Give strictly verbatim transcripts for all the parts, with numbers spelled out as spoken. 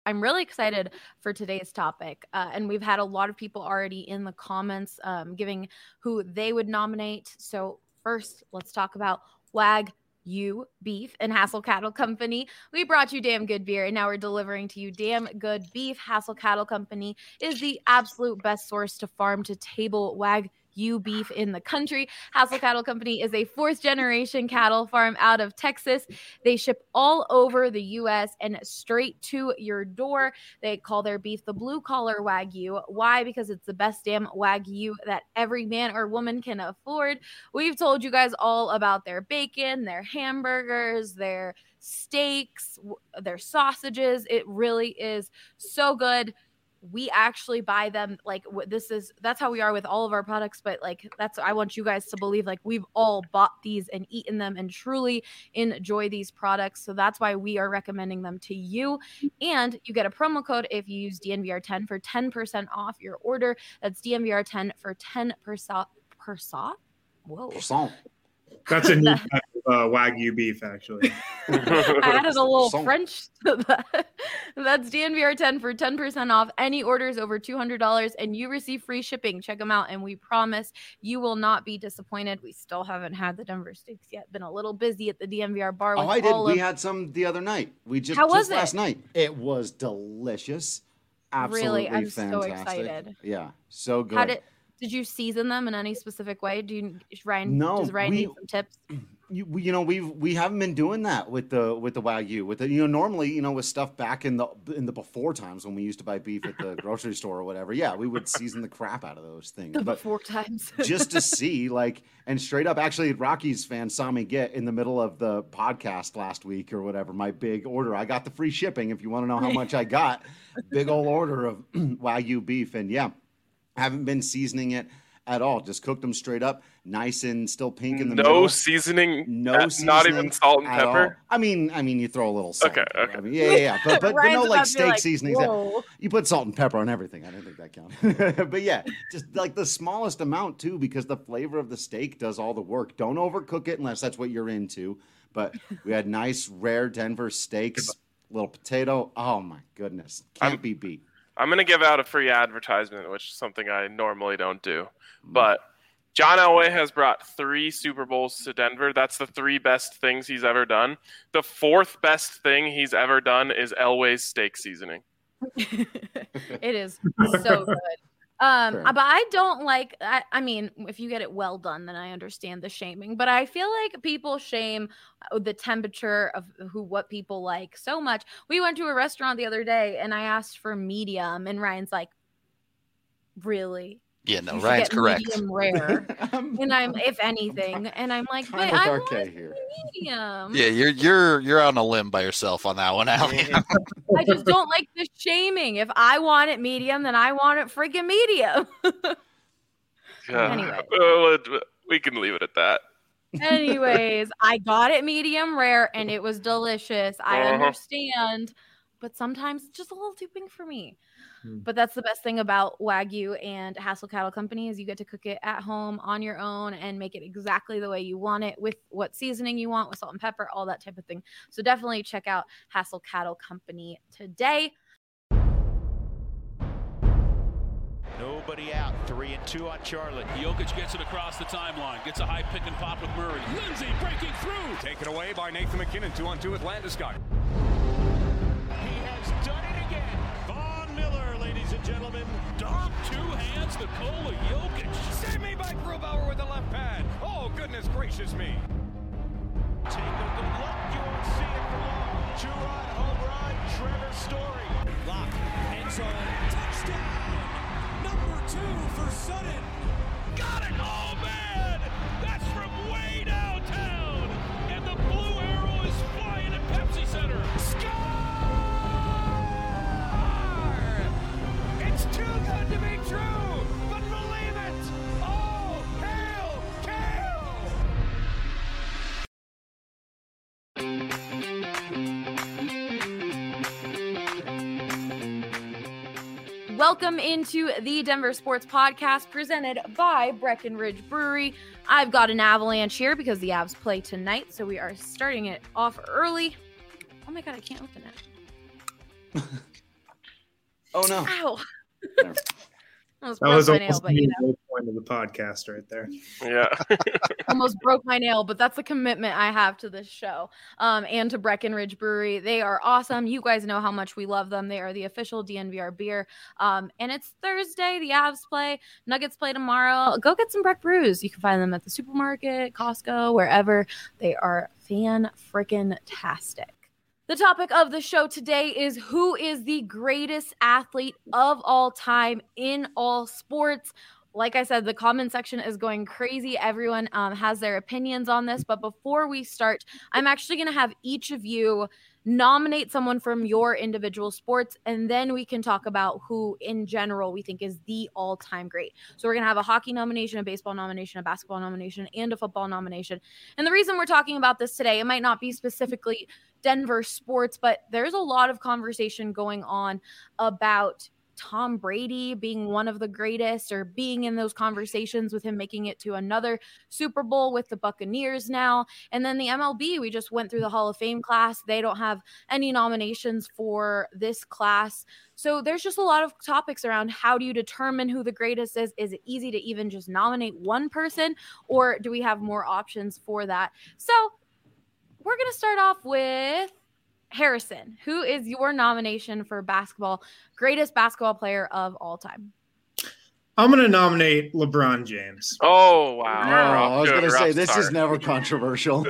I'm really excited for today's topic, uh, and we've had a lot of people already in the comments um, giving who they would nominate. So first, let's talk about Wagyu beef and Hassel Cattle Company. We brought you damn good beer, and now we're delivering to you damn good beef. Hassel Cattle Company is the absolute best source to farm to table Wagyu beef in the country. Hassel Cattle Company is a fourth generation cattle farm out of Texas. They ship all over the U S and straight to your door. They call their beef the blue collar Wagyu. Why? Because it's the best damn Wagyu that every man or woman can afford. We've told you guys all about their bacon, their hamburgers, their steaks, their sausages. It really is so good. We actually buy them. Like, this is that's how we are with all of our products, but like that's I want you guys to believe like we've all bought these and eaten them and truly enjoy these products. So that's why we are recommending them to you. And you get a promo code if you use D N V R ten for ten percent off your order. That's D N V R ten for ten percent percent. Whoa. Percent. That's a new type of uh, Wagyu beef, actually. I added a little French to that. That's D N V R ten for ten percent off any orders over two hundred dollars, and you receive free shipping. Check them out, and we promise you will not be disappointed. We still haven't had the Denver steaks yet. Been a little busy at the D N V R bar. With oh, I did. All we of... had some the other night. We just, How was just last it? night. It was delicious. Absolutely really, I'm fantastic. so excited. Yeah, so good. How did did you season them in any specific way? Do you Ryan? No, does Ryan we, need some tips? You, we, you know, we've we haven't been doing that with the with the Wagyu. With the you know normally you know with stuff back in the in the before times when we used to buy beef at the grocery store or whatever. Yeah, we would season the crap out of those things. The but before times. just to see like and straight up, actually, Rockies fans saw me get in the middle of the podcast last week or whatever. My big order. I got the free shipping. If you want to know how much I got, big old order of Wagyu beef, and yeah, haven't been seasoning it at all. Just cooked them straight up, nice and still pink in the no middle. Seasoning, No uh, seasoning. Not even salt and at pepper. all. I mean, I mean, you throw a little salt. Okay, and pepper. okay. I mean, yeah, yeah, yeah. But but, but no Ryan's like about to be steak like, seasonings. whoa. You put salt and pepper on everything. I didn't think that counted. But yeah, just like the smallest amount too, because the flavor of the steak does all the work. Don't overcook it unless that's what you're into. But we had nice, rare Denver steaks, little potato. Oh my goodness, can't I'm, be beat. I'm gonna give out a free advertisement, which is something I normally don't do, but. John Elway has brought three Super Bowls to Denver. That's the three best things he's ever done. The fourth best thing he's ever done is Elway's steak seasoning. It is so good. Um, Sure. but I don't like, I, I mean, if you get it well done, then I understand the shaming, but I feel like people shame the temperature of who, what people like so much. We went to a restaurant the other day and I asked for medium and Ryan's like, really? Yeah, no, You should Ryan's get correct. Medium rare. And I'm, if anything, and I'm like, kind but of I with want R K it here. medium. Yeah, you're you're you're on a limb by yourself on that one, Allie. I just don't like the shaming. If I want it medium, then I want it freaking medium. Yeah. Anyway. Uh, we can leave it at that. Anyways, I got it medium rare and it was delicious. I Uh-huh. understand, but sometimes it's just a little too pink for me. Hmm. But that's the best thing about Wagyu and Hassel Cattle Company is you get to cook it at home on your own and make it exactly the way you want it with what seasoning you want, with salt and pepper, all that type of thing. So definitely check out Hassel Cattle Company today. Nobody out. Three and two on Charlotte. Jokic gets it across the timeline. Gets a high pick and pop with Murray. Lindsay breaking through. Taken away by Nathan McKinnon. Two on two with Landeskog. He has done it again. Von Miller, ladies and gentlemen. Dom, two hands, Nikola Jokic. Save me by Grubauer with the left pad. Oh, goodness gracious me. Take a good look. You won't see it for long. Two-run home run. Trevor Story. Lock. End zone. Touchdown. Number two for Sutton. Got it. Oh, man. That's from way downtown. And the blue arrow is flying at Pepsi Center. Score! It's too good to be true, but believe it. Oh, hail, Kale! Welcome into the Denver Sports Podcast presented by Breckenridge Brewery. I've got an avalanche here because the Avs play tonight, so we are starting it off early. Oh my god, I can't open it. Oh no! Ow! There. Almost That broke was my nail, almost but you the know, low point of the podcast right there. Yeah. almost broke my nail. But that's the commitment I have to this show, um, and to Breckenridge Brewery. They are awesome. You guys know how much we love them. They are the official D N V R beer. Um, and it's Thursday. The Avs play. Nuggets play tomorrow. Go get some Breck Brews. You can find them at the supermarket, Costco, wherever. They are fan-frickin-tastic. The topic of the show today is who is the greatest athlete of all time in all sports. Like I said, the comment section is going crazy. Everyone um, has their opinions on this. But before we start, I'm actually going to have each of you nominate someone from your individual sports, and then we can talk about who in general we think is the all-time great. So we're going to have a hockey nomination, a baseball nomination, a basketball nomination, and a football nomination. And the reason we're talking about this today, it might not be specifically Denver sports, but there's a lot of conversation going on about Tom Brady being one of the greatest, or being in those conversations with him making it to another Super Bowl with the Buccaneers now. And then the M L B, we just went through the Hall of Fame class. They don't have any nominations for this class. So there's just a lot of topics around how do you determine who the greatest is? Is it easy to even just nominate one person, or do we have more options for that? So we're going to start off with Harrison. Who is your nomination for basketball, greatest basketball player of all time? I'm going to nominate LeBron James. Oh, wow. Oh, I was going to say, this start. is never controversial.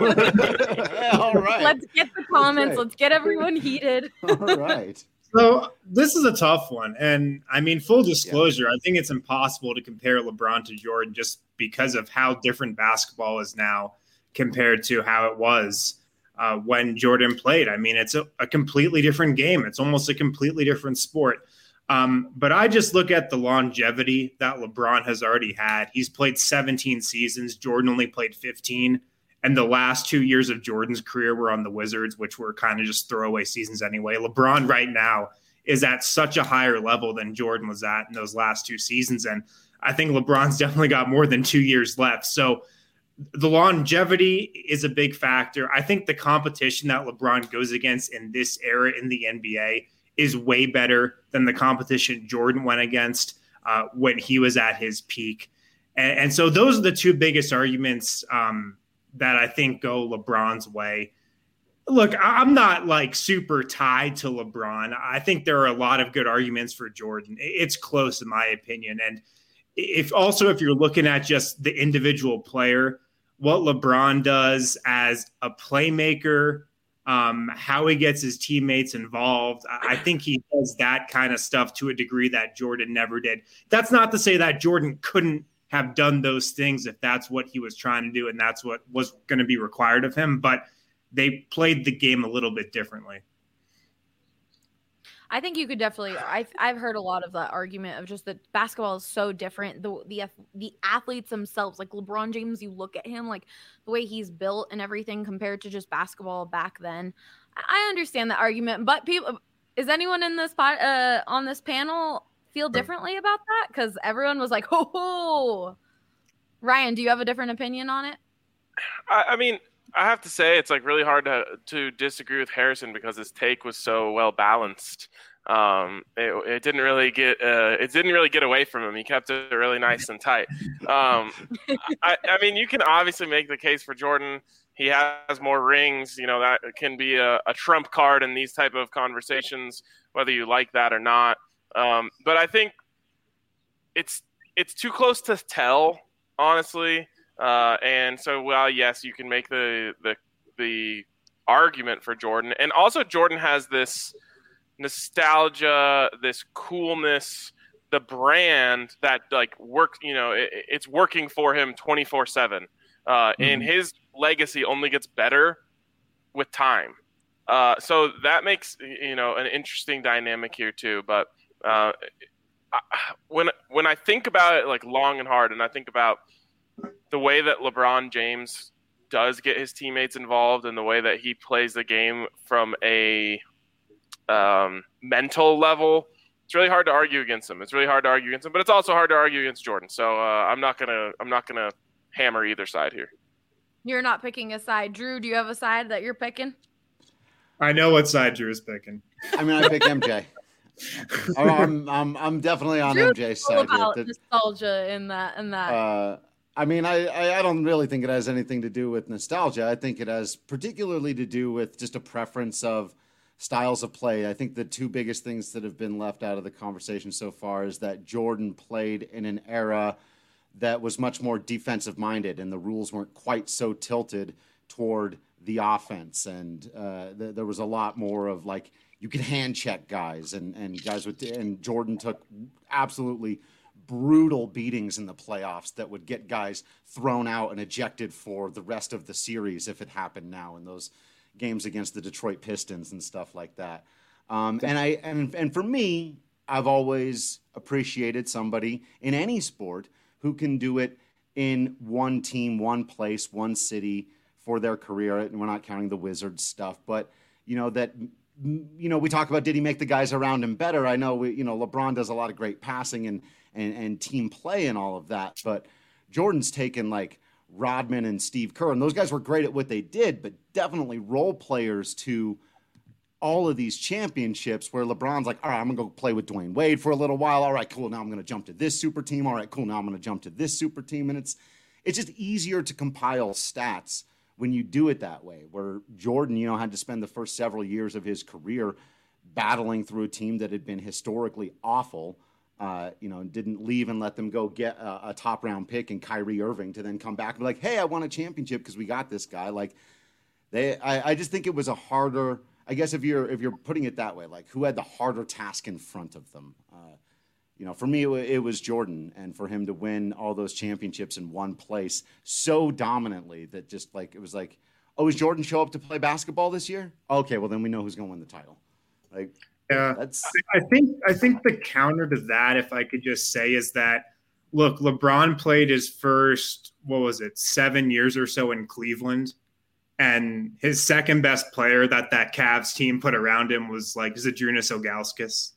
All right. Let's get the comments. Okay. Let's get everyone heated. All right. So this is a tough one. And I mean, full disclosure, yeah. I think it's impossible to compare LeBron to Jordan just because of how different basketball is now compared to how it was uh, when Jordan played. I mean, it's a, a completely different game. It's almost a completely different sport. Um, but I just look at the longevity that LeBron has already had. He's played seventeen seasons. Jordan only played fifteen. And the last two years of Jordan's career were on the Wizards, which were kind of just throwaway seasons anyway. LeBron right now is at such a higher level than Jordan was at in those last two seasons. And I think LeBron's definitely got more than two years left. So the longevity is a big factor. I think the competition that LeBron goes against in this era in the N B A is way better than the competition Jordan went against uh, when he was at his peak. And, and so those are the two biggest arguments um, that I think go LeBron's way. Look, I'm not like super tied to LeBron. I think there are a lot of good arguments for Jordan. It's close in my opinion. And if also, if you're looking at just the individual player, what LeBron does as a playmaker, um, how he gets his teammates involved, I think he does that kind of stuff to a degree that Jordan never did. That's not to say that Jordan couldn't have done those things if that's what he was trying to do and that's what was going to be required of him, but they played the game a little bit differently. I think you could definitely, I've, I've heard a lot of that argument of just that basketball is so different. The, the, the athletes themselves, like LeBron James, you look at him, like the way he's built and everything compared to just basketball back then. I understand that argument, but people, is anyone in this pot, uh, on this panel feel differently about that? Because everyone was like, ho ho. Ryan, do you have a different opinion on it? I, I mean, I have to say it's like really hard to to disagree with Harrison because his take was so well balanced. Um, it, it didn't really get uh, it didn't really get away from him. He kept it really nice and tight. Um, I, I mean, you can obviously make the case for Jordan. He has more rings. You know, that can be a, a trump card in these type of conversations, whether you like that or not. Um, but I think it's it's too close to tell, honestly. Uh, and so, well, yes, you can make the, the the argument for Jordan. And also Jordan has this nostalgia, this coolness, the brand that, like, works, you know, it, it's working for him twenty-four seven. Uh, mm-hmm. And his legacy only gets better with time. Uh, so that makes, you know, an interesting dynamic here, too. But uh, when when I think about it, like, long and hard, and I think about the way that LeBron James does get his teammates involved and the way that he plays the game from a um, mental level, it's really hard to argue against him. It's really hard to argue against him, but it's also hard to argue against Jordan. So uh, I'm not gonna I'm not gonna hammer either side here. You're not picking a side. Drew, do you have a side that you're picking? I know what side Drew is picking. I mean, I pick M J. I'm, I'm, I'm definitely on Drew's M J's all side about here. That, nostalgia in that and that. uh, I mean, I, I, I don't really think it has anything to do with nostalgia. I think it has particularly to do with just a preference of styles of play. I think the two biggest things that have been left out of the conversation so far is that Jordan played in an era that was much more defensive minded and the rules weren't quite so tilted toward the offense. And uh, th- there was a lot more of like, you could hand check guys and, and guys would, and Jordan took absolutely brutal beatings in the playoffs that would get guys thrown out and ejected for the rest of the series if it happened now in those games against the Detroit Pistons and stuff like that. Um, and I and and for me, I've always appreciated somebody in any sport who can do it in one team, one place, one city for their career. And we're not counting the Wizards stuff, but you know that. You know, we talk about did he make the guys around him better? I know, we, you know, LeBron does a lot of great passing and, and and team play and all of that, but Jordan's taken like Rodman and Steve Kerr, and those guys were great at what they did, but definitely role players to all of these championships where LeBron's like, all right, I'm going to go play with Dwayne Wade for a little while. All right, cool. Now I'm going to jump to this super team. All right, cool. Now I'm going to jump to this super team. And it's it's just easier to compile stats when you do it that way, where Jordan, you know, had to spend the first several years of his career battling through a team that had been historically awful, uh, you know, and didn't leave and let them go get a, a top round pick and Kyrie Irving to then come back and be like, hey, I won a championship because we got this guy. Like they, I, I just think it was a harder, I guess if you're, if you're putting it that way, like who had the harder task in front of them? Uh, You know, for me, it was Jordan, and for him to win all those championships in one place so dominantly that just like, it was like, oh, is Jordan show up to play basketball this year? Okay, well, then we know who's going to win the title. Like, yeah, that's. I think, I think the counter to that, if I could just say, is that, look, LeBron played his first, what was it, seven years or so in Cleveland, and his second best player that that Cavs team put around him was like Zydrunas Ilgauskas.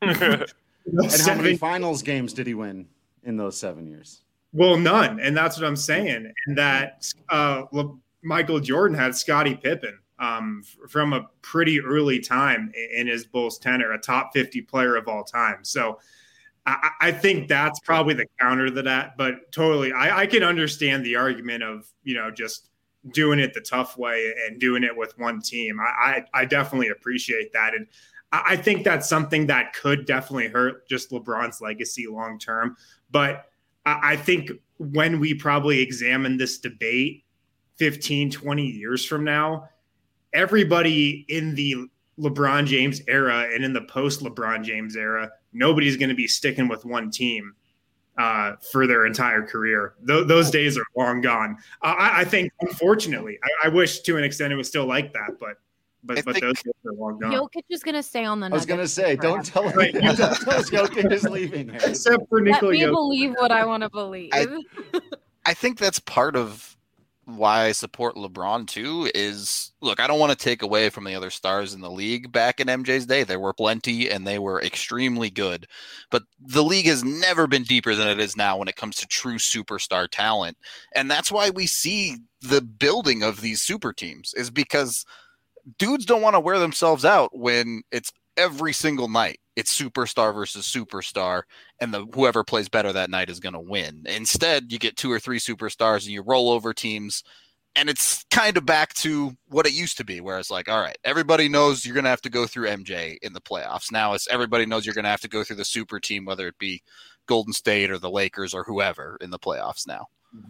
And how many finals games did he win in those seven years? Well, none. And that's what I'm saying. And that uh, Michael Jordan had Scottie Pippen um, f- from a pretty early time in his Bulls tenure, a top fifty player of all time. So I, I think that's probably the counter to that. But totally, I, I can understand the argument of, you know, just doing it the tough way and doing it with one team. I, I, I definitely appreciate that. And I think that's something that could definitely hurt just LeBron's legacy long term. But I think when we probably examine this debate fifteen, twenty years from now, everybody in the LeBron James era and in the post LeBron James era, nobody's going to be sticking with one team uh, for their entire career. Th- those days are long gone. Uh, I-, I think, unfortunately, I-, I wish to an extent it was still like that, but But, but those days are long gone. Jokic is going to stay on the I was going to say, forever. don't tell him. Don't tell us Jokic is leaving. Here. Except for Let Nikola me Jokic. believe what I want to believe. I, I think that's part of why I support LeBron too is, look, I don't want to take away from the other stars in the league back in M J's day. There were plenty and they were extremely good, but the league has never been deeper than it is now when it comes to true superstar talent. And that's why we see the building of these super teams, is because dudes don't want to wear themselves out when it's every single night. It's superstar versus superstar, and the whoever plays better that night is going to win. Instead, you get two or three superstars and you roll over teams, and it's kind of back to what it used to be, where it's like, all right, everybody knows you're going to have to go through M J in the playoffs. Now it's everybody knows you're going to have to go through the super team, whether it be Golden State or the Lakers or whoever in the playoffs now.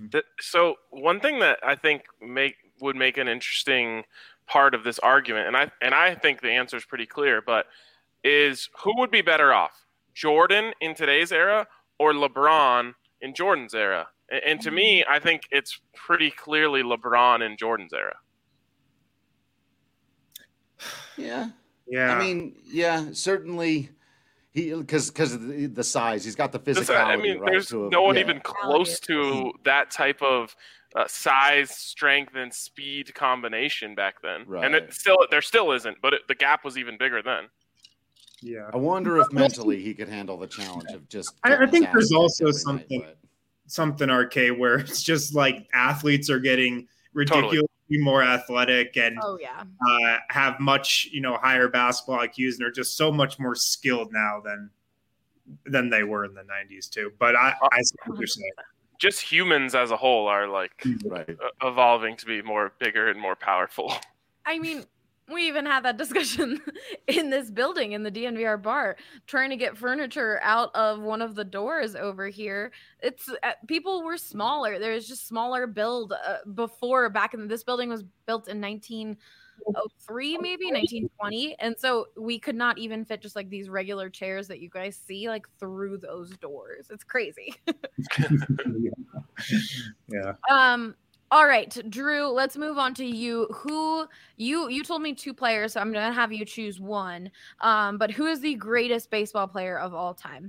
So one thing that I think make would make an interesting part of this argument, and I and I think the answer is pretty clear, but is who would be better off, Jordan in today's era or LeBron in Jordan's era? And, and to me, I think it's pretty clearly LeBron in Jordan's era. Yeah. Yeah. I mean, yeah, certainly. He because because of the, the size, he's got the physicality. I mean, right, there's to a, no one yeah. even close to that type of uh, size, strength, and speed combination back then. Right. And it still, there still isn't, but it, the gap was even bigger then. Yeah. I wonder if mentally he could handle the challenge of just. I, I think there's getting also sassy every something night, something arcade where it's just like athletes are getting ridiculously be more athletic and oh yeah, uh, have much, you know, higher basketball I Qs, and are just so much more skilled now than than they were in the nineties too. But I, I see what you're saying. Just humans as a whole are like Right. uh, evolving to be more bigger and more powerful. I mean, we even had that discussion in this building in the D N V R bar, trying to get furniture out of one of the doors over here. It's uh, people were smaller. There's just smaller build uh, before. Back in this building was built in nineteen oh three, maybe nineteen twenty, and so we could not even fit just like these regular chairs that you guys see like through those doors. It's crazy. Yeah. Um. All right, Drew, let's move on to you. Who you you told me two players, so I'm going to have you choose one. Um, but who is the greatest baseball player of all time?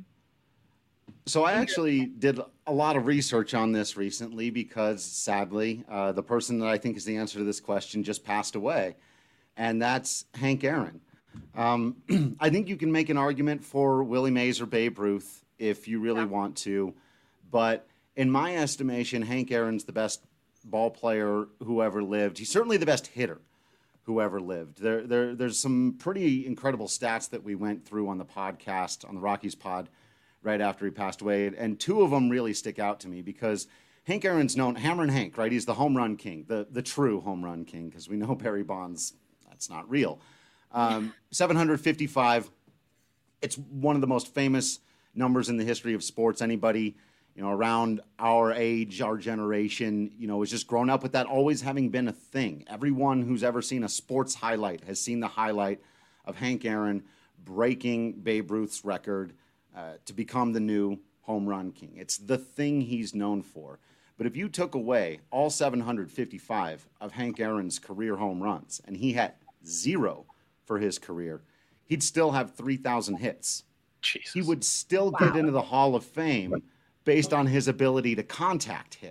So I actually did a lot of research on this recently because, sadly, uh, the person that I think is the answer to this question just passed away, and that's Hank Aaron. Um, I think you can make an argument for Willie Mays or Babe Ruth if you really Yeah. want to, but in my estimation, Hank Aaron's the best ball player who ever lived. He's certainly the best hitter who ever lived. There, there, there's some pretty incredible stats that we went through on the podcast, on the Rockies pod, right after he passed away. And two of them really stick out to me because Hank Aaron's known, Hammerin' Hank, right? He's the home run king, the, the true home run king, because we know Barry Bonds, that's not real. Um, seven hundred fifty-five. It's one of the most famous numbers in the history of sports. Anybody, you know, around our age, our generation, you know, has just grown up with that always having been a thing. Everyone who's ever seen a sports highlight has seen the highlight of Hank Aaron breaking Babe Ruth's record uh, to become the new home run king. It's the thing he's known for. But if you took away all seven hundred fifty-five of Hank Aaron's career home runs, and he had zero for his career, he'd still have three thousand hits. Jesus. He would still wow. get into the Hall of Fame based on his ability to contact hit.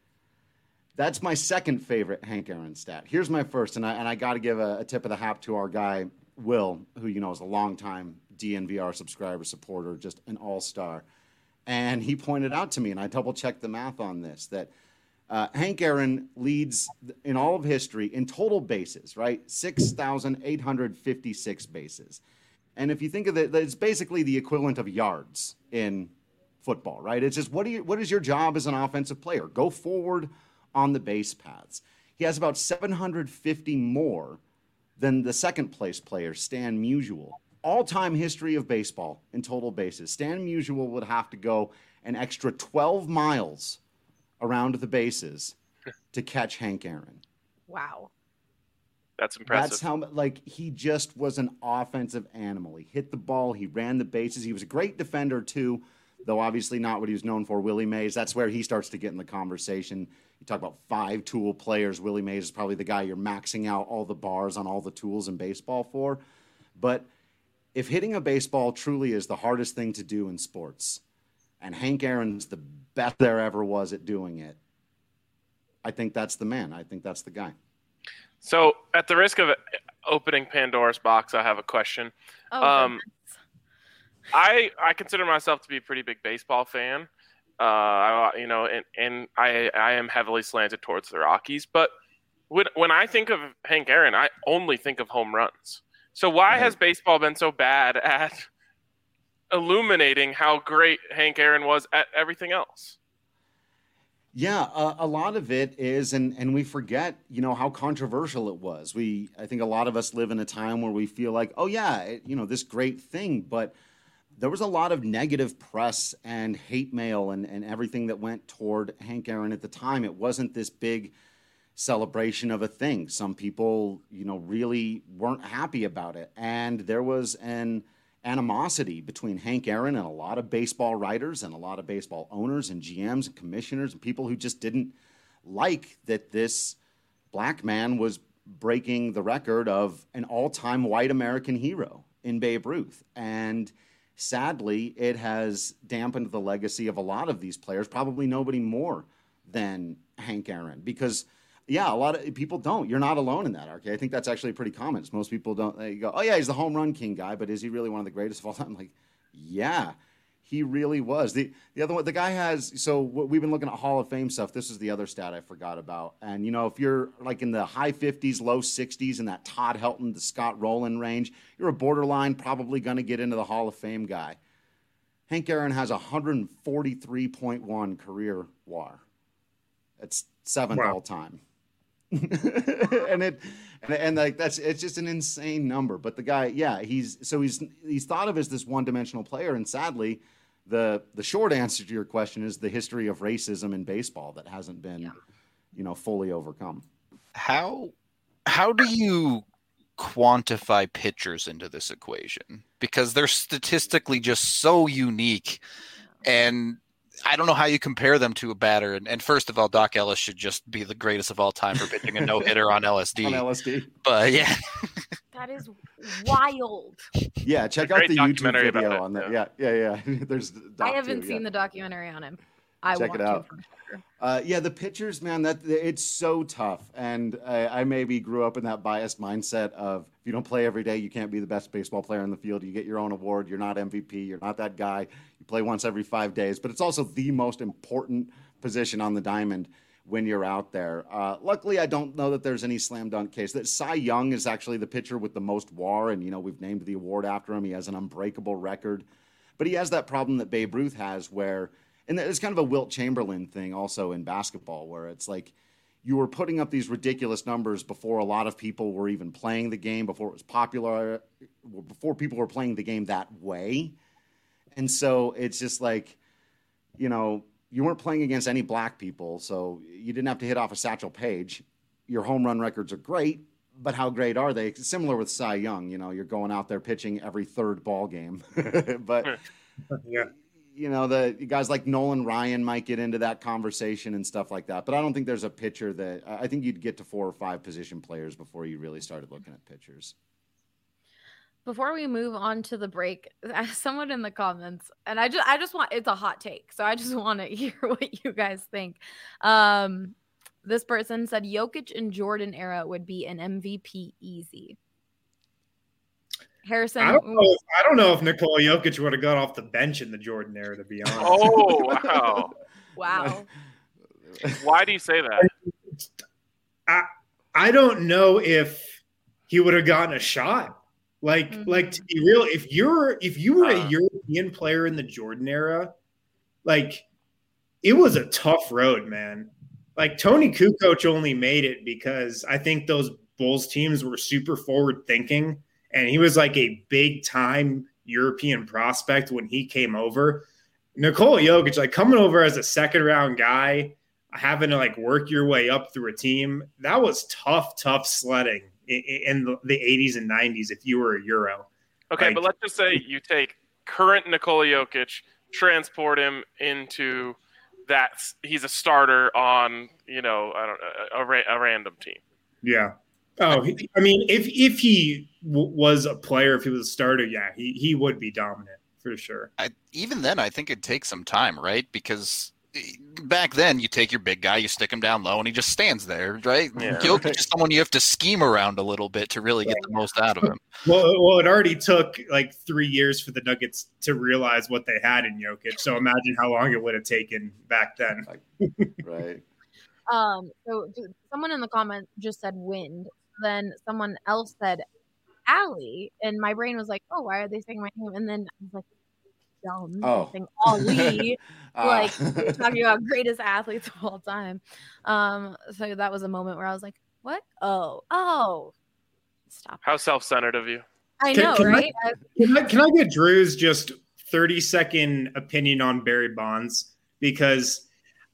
That's my second favorite Hank Aaron stat. Here's my first, and I, and I got to give a, a tip of the hat to our guy, Will, who you know is a longtime D N V R subscriber, supporter, just an all-star. And he pointed out to me, and I double-checked the math on this, that uh, Hank Aaron leads in all of history in total bases, right? six thousand eight hundred fifty-six bases. And if you think of it, it's basically the equivalent of yards in football, right? It's just, what do you, what is your job as an offensive player? Go forward on the base paths. He has about seven hundred fifty more than the second place player, Stan Musial. All-time history of baseball in total bases. Stan Musial would have to go an extra twelve miles around the bases to catch Hank Aaron. Wow. That's impressive. That's how, like, he just was an offensive animal. He hit the ball. He ran the bases. He was a great defender, too, though obviously not what he was known for. Willie Mays, that's where he starts to get in the conversation. You talk about five-tool players. Willie Mays is probably the guy you're maxing out all the bars on all the tools in baseball for. But if hitting a baseball truly is the hardest thing to do in sports, and Hank Aaron's the best there ever was at doing it, I think that's the man. I think that's the guy. So, at the risk of opening Pandora's box, I have a question. Oh, um, I I consider myself to be a pretty big baseball fan. Uh, I, you know, and, and I I am heavily slanted towards the Rockies. But when when I think of Hank Aaron, I only think of home runs. So why has baseball been so bad at illuminating how great Hank Aaron was at everything else? Yeah, uh, a lot of it is, and and we forget, you know, how controversial it was. We, I think a lot of us live in a time where we feel like, oh yeah, it, you know, this great thing, but there was a lot of negative press and hate mail and, and everything that went toward Hank Aaron at the time. It wasn't this big celebration of a thing. Some people, you know, really weren't happy about it. And there was an animosity between Hank Aaron and a lot of baseball writers and a lot of baseball owners and G Ms and commissioners and people who just didn't like that this black man was breaking the record of an all-time white American hero in Babe Ruth. And sadly, it has dampened the legacy of a lot of these players, probably nobody more than Hank Aaron, because yeah, a lot of people don't. You're not alone in that, R K. I think that's actually pretty common. Most people don't. They go, oh, yeah, he's the home run king guy, but is he really one of the greatest of all time? Like, yeah, He really was. The the other one, the guy has, so what we've been looking at Hall of Fame stuff. This is the other stat I forgot about. And, you know, if you're like in the high fifties, low sixties in that Todd Helton to Scott Rowland range, you're a borderline probably going to get into the Hall of Fame guy. Hank Aaron has one forty-three point one career W A R. That's seventh Wow. all time. and it and, and like that's it's just an insane number. But the guy, yeah, he's so he's he's thought of as this one-dimensional player, and sadly, the the short answer to your question is the history of racism in baseball that hasn't been, Yeah. you know, fully overcome. How how do you quantify pitchers into this equation? Because they're statistically just so unique, and I don't know how you compare them to a batter. And, and first of all, Doc Ellis should just be the greatest of all time for pitching a no-hitter on L S D. On L S D. But yeah, That is wild. Yeah, check A out great the YouTube documentary about video it, on that. Yeah, yeah, yeah. There's I doc haven't too, seen yeah. the documentary on him. I Check want it out. to for sure. Uh, yeah, the pitchers, man, that it's so tough. And I, I maybe grew up in that biased mindset of if you don't play every day, you can't be the best baseball player in the field. You get your own award. You're not M V P. You're not that guy. You play once every five days. But it's also the most important position on the diamond when you're out there. Uh, luckily, I don't know that there's any slam dunk case. That Cy Young is actually the pitcher with the most W A R, and, you know, we've named the award after him. He has an unbreakable record. But he has that problem that Babe Ruth has where – and it's kind of a Wilt Chamberlain thing also in basketball where it's like you were putting up these ridiculous numbers before a lot of people were even playing the game, before it was popular, before people were playing the game that way. And so it's just like, you know, you weren't playing against any black people, so you didn't have to hit off a Satchel Paige. Your home run records are great, but how great are they? It's similar with Cy Young. You know, you're going out there pitching every third ball game. But Yeah. you know, the guys like Nolan Ryan might get into that conversation and stuff like that. But I don't think there's a pitcher that I think you'd get to four or five position players before you really started looking at pitchers. Before we move on to the break, someone in the comments, and I just I just want it's a hot take, so I just want to hear what you guys think. Um, this person said Jokic and Jordan era would be an M V P easy. Harrison, I don't know. If, I don't know if Nikola Jokic would have got off the bench in the Jordan era, to be honest. Oh, wow. wow. Why do you say that? I I don't know if he would have gotten a shot. Like, Mhm. like to be real, if you're if you were Uh. a European player in the Jordan era, like it was a tough road, man. Like Tony Kukoc only made it because I think those Bulls teams were super forward thinking, and he was like a big time European prospect when he came over. Nikola Jokic, like coming over as a second round guy, having to like work your way up through a team, that was tough, tough sledding in, in the, the eighties and nineties if you were a Euro. Okay, Like- but let's just say you take current Nikola Jokic, transport him into that he's a starter on, you know, I don't a, a, ra- a random team. Yeah. Oh, he, I mean, if if he w- was a player, if he was a starter, yeah, he, he would be dominant for sure. I, even then, I think it'd take some time, right? Because back then, you take your big guy, you stick him down low, and he just stands there, right? Yeah. Jokic is someone you have to scheme around a little bit to really get the most out of him. Well, well, it already took like three years for the Nuggets to realize what they had in Jokic. So imagine how long it would have taken back then. Right. Um, so dude, someone in the comment just said wind. Then someone else said Allie, and my brain was like, "Oh, why are they saying my name?" And then I was like, "Dumb." Oh. Saying Ali, Uh, like we're talking about greatest athletes of all time. Um, so that was a moment where I was like, "What? Oh, oh, stop." How self-centered of you. I Can- know, can I- right? I- Can I, can I get Drew's just thirty second opinion on Barry Bonds? Because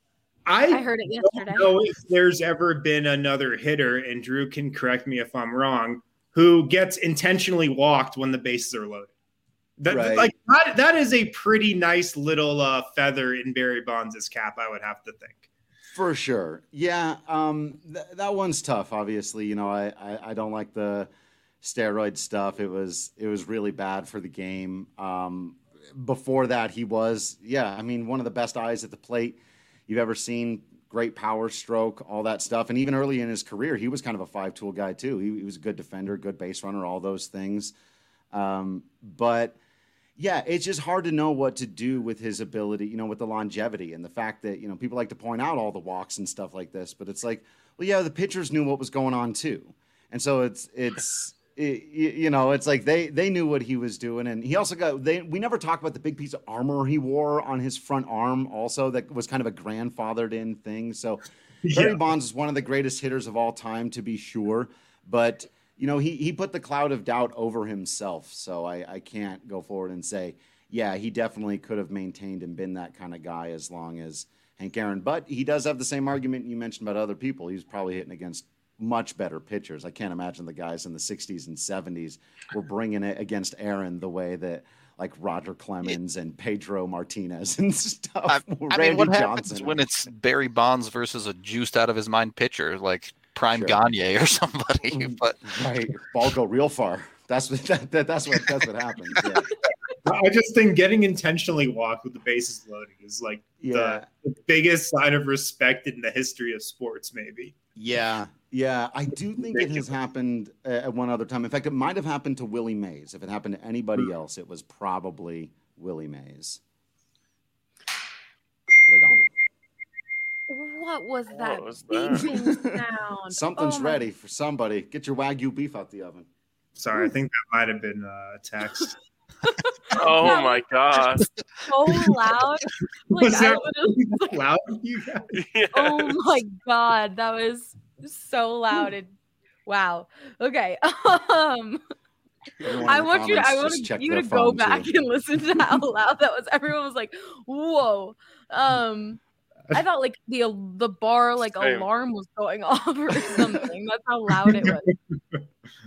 I, I heard it yesterday. don't know if there's ever been another hitter, and Drew can correct me if I'm wrong, who gets intentionally walked when the bases are loaded. That, Right. Like that, that is a pretty nice little uh, feather in Barry Bonds' cap, I would have to think. For sure. Yeah. Um, th- that one's tough. Obviously, you know, I, I, I don't like the steroid stuff. It was, it was really bad for the game. Um, before that, he was, yeah, I mean, one of the best eyes at the plate you've ever seen. Great power stroke, all that stuff. And even early in his career, he was kind of a five tool guy too. He, he was a good defender, good base runner, all those things. Um, but Yeah, it's just hard to know what to do with his ability, you know, with the longevity and the fact that, you know, people like to point out all the walks and stuff like this, but it's like, well, yeah, the pitchers knew what was going on too. And so it's, it's, it, you know, it's like they, they knew what he was doing. And he also got, they, we never talked about the big piece of armor he wore on his front arm also that was kind of a grandfathered in thing. So yeah. Barry Bonds is one of the greatest hitters of all time, to be sure, but you know, he, he put the cloud of doubt over himself. So I, I can't go forward and say, yeah, he definitely could have maintained and been that kind of guy as long as Hank Aaron. But he does have the same argument you mentioned about other people. He's probably hitting against much better pitchers. I can't imagine the guys in the sixties and seventies were bringing it against Aaron the way that like Roger Clemens and Pedro Martinez and stuff. I, I mean, what happens Johnson. when it's Barry Bonds versus a juiced out of his mind pitcher like Prime Sure. Gagne or somebody? But right, ball go real far. That's what that, that, that's what that's what happens. Yeah. I just think getting intentionally walked with the bases loaded is like Yeah. the, the biggest sign of respect in the history of sports, maybe. Yeah, yeah. I do think it has happened uh, at one other time. In fact, it might have happened to Willie Mays. If it happened to anybody else, it was probably Willie Mays. But I don't know. What was that What was that? beeping sound? Something's Oh my- ready for somebody. Get your Wagyu beef out the oven. Sorry, I think that might have been uh, a text. Oh my god. So loud. Like, Was I that literally- loud for you guys? Yes. oh my god, that was so loud. And wow. Okay. Um Everyone I in the want you to I comments want just check you their to go phone, back too. and listen to how loud that was. Everyone was like, whoa. Um I thought like the the bar like Same. alarm was going off or something. That's how loud it was.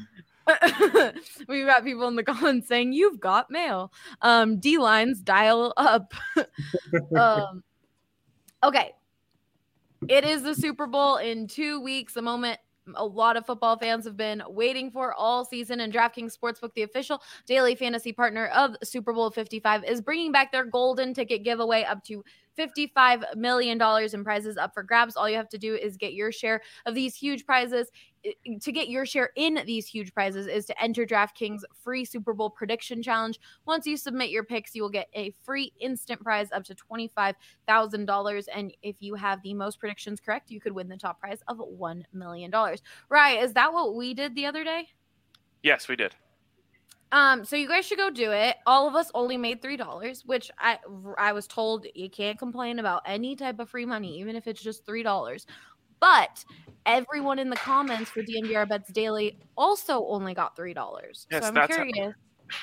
We've got people in the comments saying you've got mail. Um, D lines dial up. um, okay, it is the Super Bowl in two weeks. A moment a lot of football fans have been waiting for all season, and DraftKings Sportsbook, the official daily fantasy partner of Super Bowl fifty-five, is bringing back their golden ticket giveaway up to fifty-five million dollars in prizes up for grabs. All you have to do is get your share of these huge prizes. To get your share in these huge prizes is to enter DraftKings free Super Bowl prediction challenge. Once you submit your picks, you will get a free instant prize up to twenty-five thousand dollars. And if you have the most predictions correct, you could win the top prize of one million dollars. Right. Is that what we did the other day? Yes, we did. Um, so you guys should go do it. All of us only made three dollars, which I I was told you can't complain about any type of free money, even if it's just three dollars. But everyone in the comments for D N V R Bets Daily also only got three dollars. Yes, so I'm that's how- curious.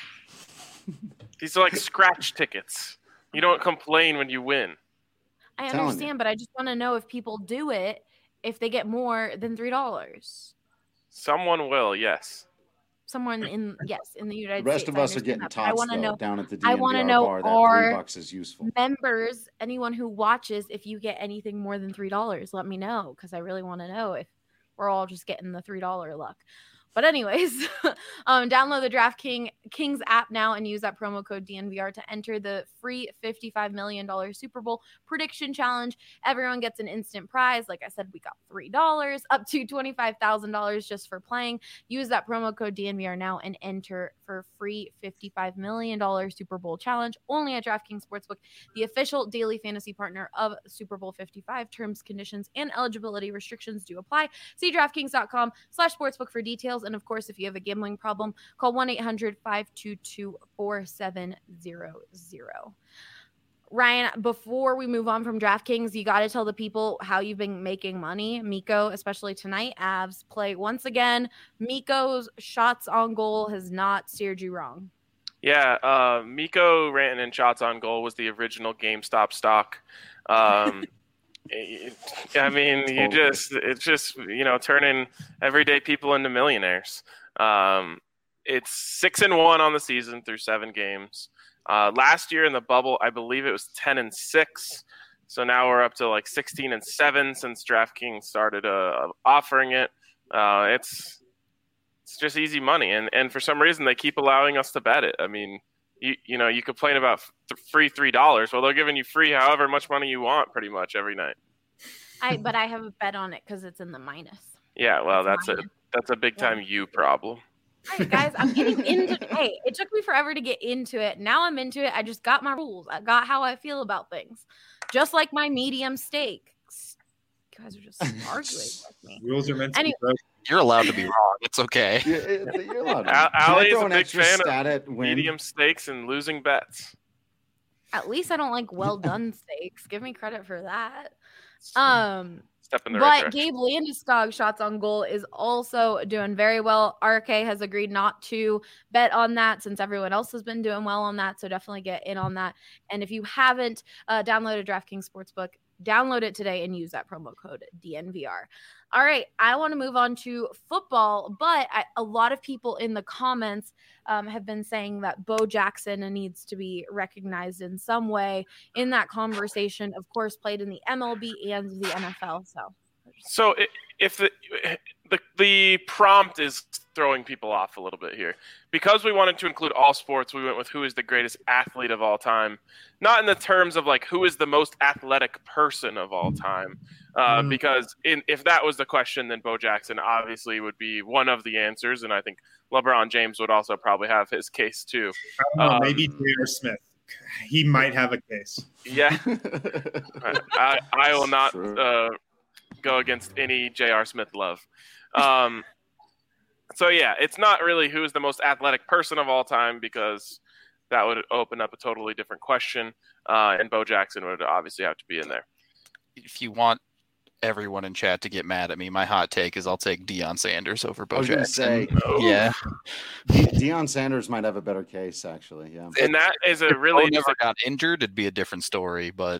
These are like scratch tickets. You don't complain when you win. I telling you. understand, but I just want to know if people do it if they get more than three dollars. Someone will, yes. Someone in yes in the The United rest States. of I us are understand getting that, but I tots want to though, know down at the D I N V R wanna know bar. That are- three bucks is useful. members, anyone who watches, if you get anything more than three dollars, let me know, because I really want to know if we're all just getting the three dollar luck. But anyways, um, download the DraftKings Kings app now and use that promo code D N V R to enter the free fifty-five million dollars Super Bowl prediction challenge. Everyone gets an instant prize. Like I said, we got three dollars up to twenty-five thousand dollars just for playing. Use that promo code D N V R now and enter for free fifty-five million dollars Super Bowl challenge only at DraftKings Sportsbook, the official daily fantasy partner of Super Bowl fifty-five. Terms, conditions, and eligibility restrictions do apply. See DraftKings.com slash sportsbook for details. And of course, if you have a gambling problem, call one eight hundred five two two four seven zero zero. Ryan, before we move on from DraftKings, you got to tell the people how you've been making money. Miko, especially tonight, Avs play once again. Miko's shots on goal has not steered you wrong. Yeah, uh, Miko Rantanen shots on goal was the original GameStop stock. Um, it- I mean, you Totally. just it's just you know turning everyday people into millionaires. Um, it's six and one on the season through seven games. Uh, last year in the bubble, I believe it was ten and six. So now we're up to like sixteen and seven since DraftKings started uh, offering it. Uh, it's it's just easy money, and and for some reason they keep allowing us to bet it. I mean, you you know you complain about f- free three dollars. Well, they're giving you free however much money you want, pretty much every night. I but I have a bet on it because it's in the minus. Yeah, well, That's that's a mine. that's a big time you problem. All right, guys, I'm getting into hey, it took me forever to get into it. Now I'm into it. I just got my rules. I got how I feel about things. Just like my medium steak. You guys are just arguing with me. Rules are meant to Anyway. be broken. You're allowed to be wrong. It's okay. You're, you're allowed to. Al- Can I Allie's throw a an big extra fan of stat at win? medium steaks and losing bets. At least I don't like well done steaks. Give me credit for that. Um Step in the But right direction. Gabe Landeskog shots on goal is also doing very well. R K has agreed not to bet on that since everyone else has been doing well on that. So definitely get in on that. And if you haven't uh, downloaded DraftKings Sportsbook, download it today and use that promo code D N V R. All right, I want to move on to football, but I, a lot of people in the comments um, have been saying that Bo Jackson needs to be recognized in some way in that conversation. Of course, played in the M L B and the N F L. So, So i- if the, the the prompt is throwing people off a little bit here, because we wanted to include all sports, we went with who is the greatest athlete of all time, not in the terms of like who is the most athletic person of all time. Uh, Mm. Because in, if that was the question, then Bo Jackson obviously would be one of the answers, and I think LeBron James would also probably have his case too. I don't know, Um, maybe J R. Smith. He might have a case. Yeah, I, I will not True. uh, go against any J R. Smith love. Um, so yeah, it's not really who is the most athletic person of all time, because that would open up a totally different question, uh, and Bo Jackson would obviously have to be in there. If you want everyone in chat to get mad at me, my hot take is I'll take Deion Sanders over I Bo was going to Jackson. say, Yeah. De- Deion Sanders might have a better case, actually. Yeah. And that is a If really Bo never got injured, it'd be a different story. But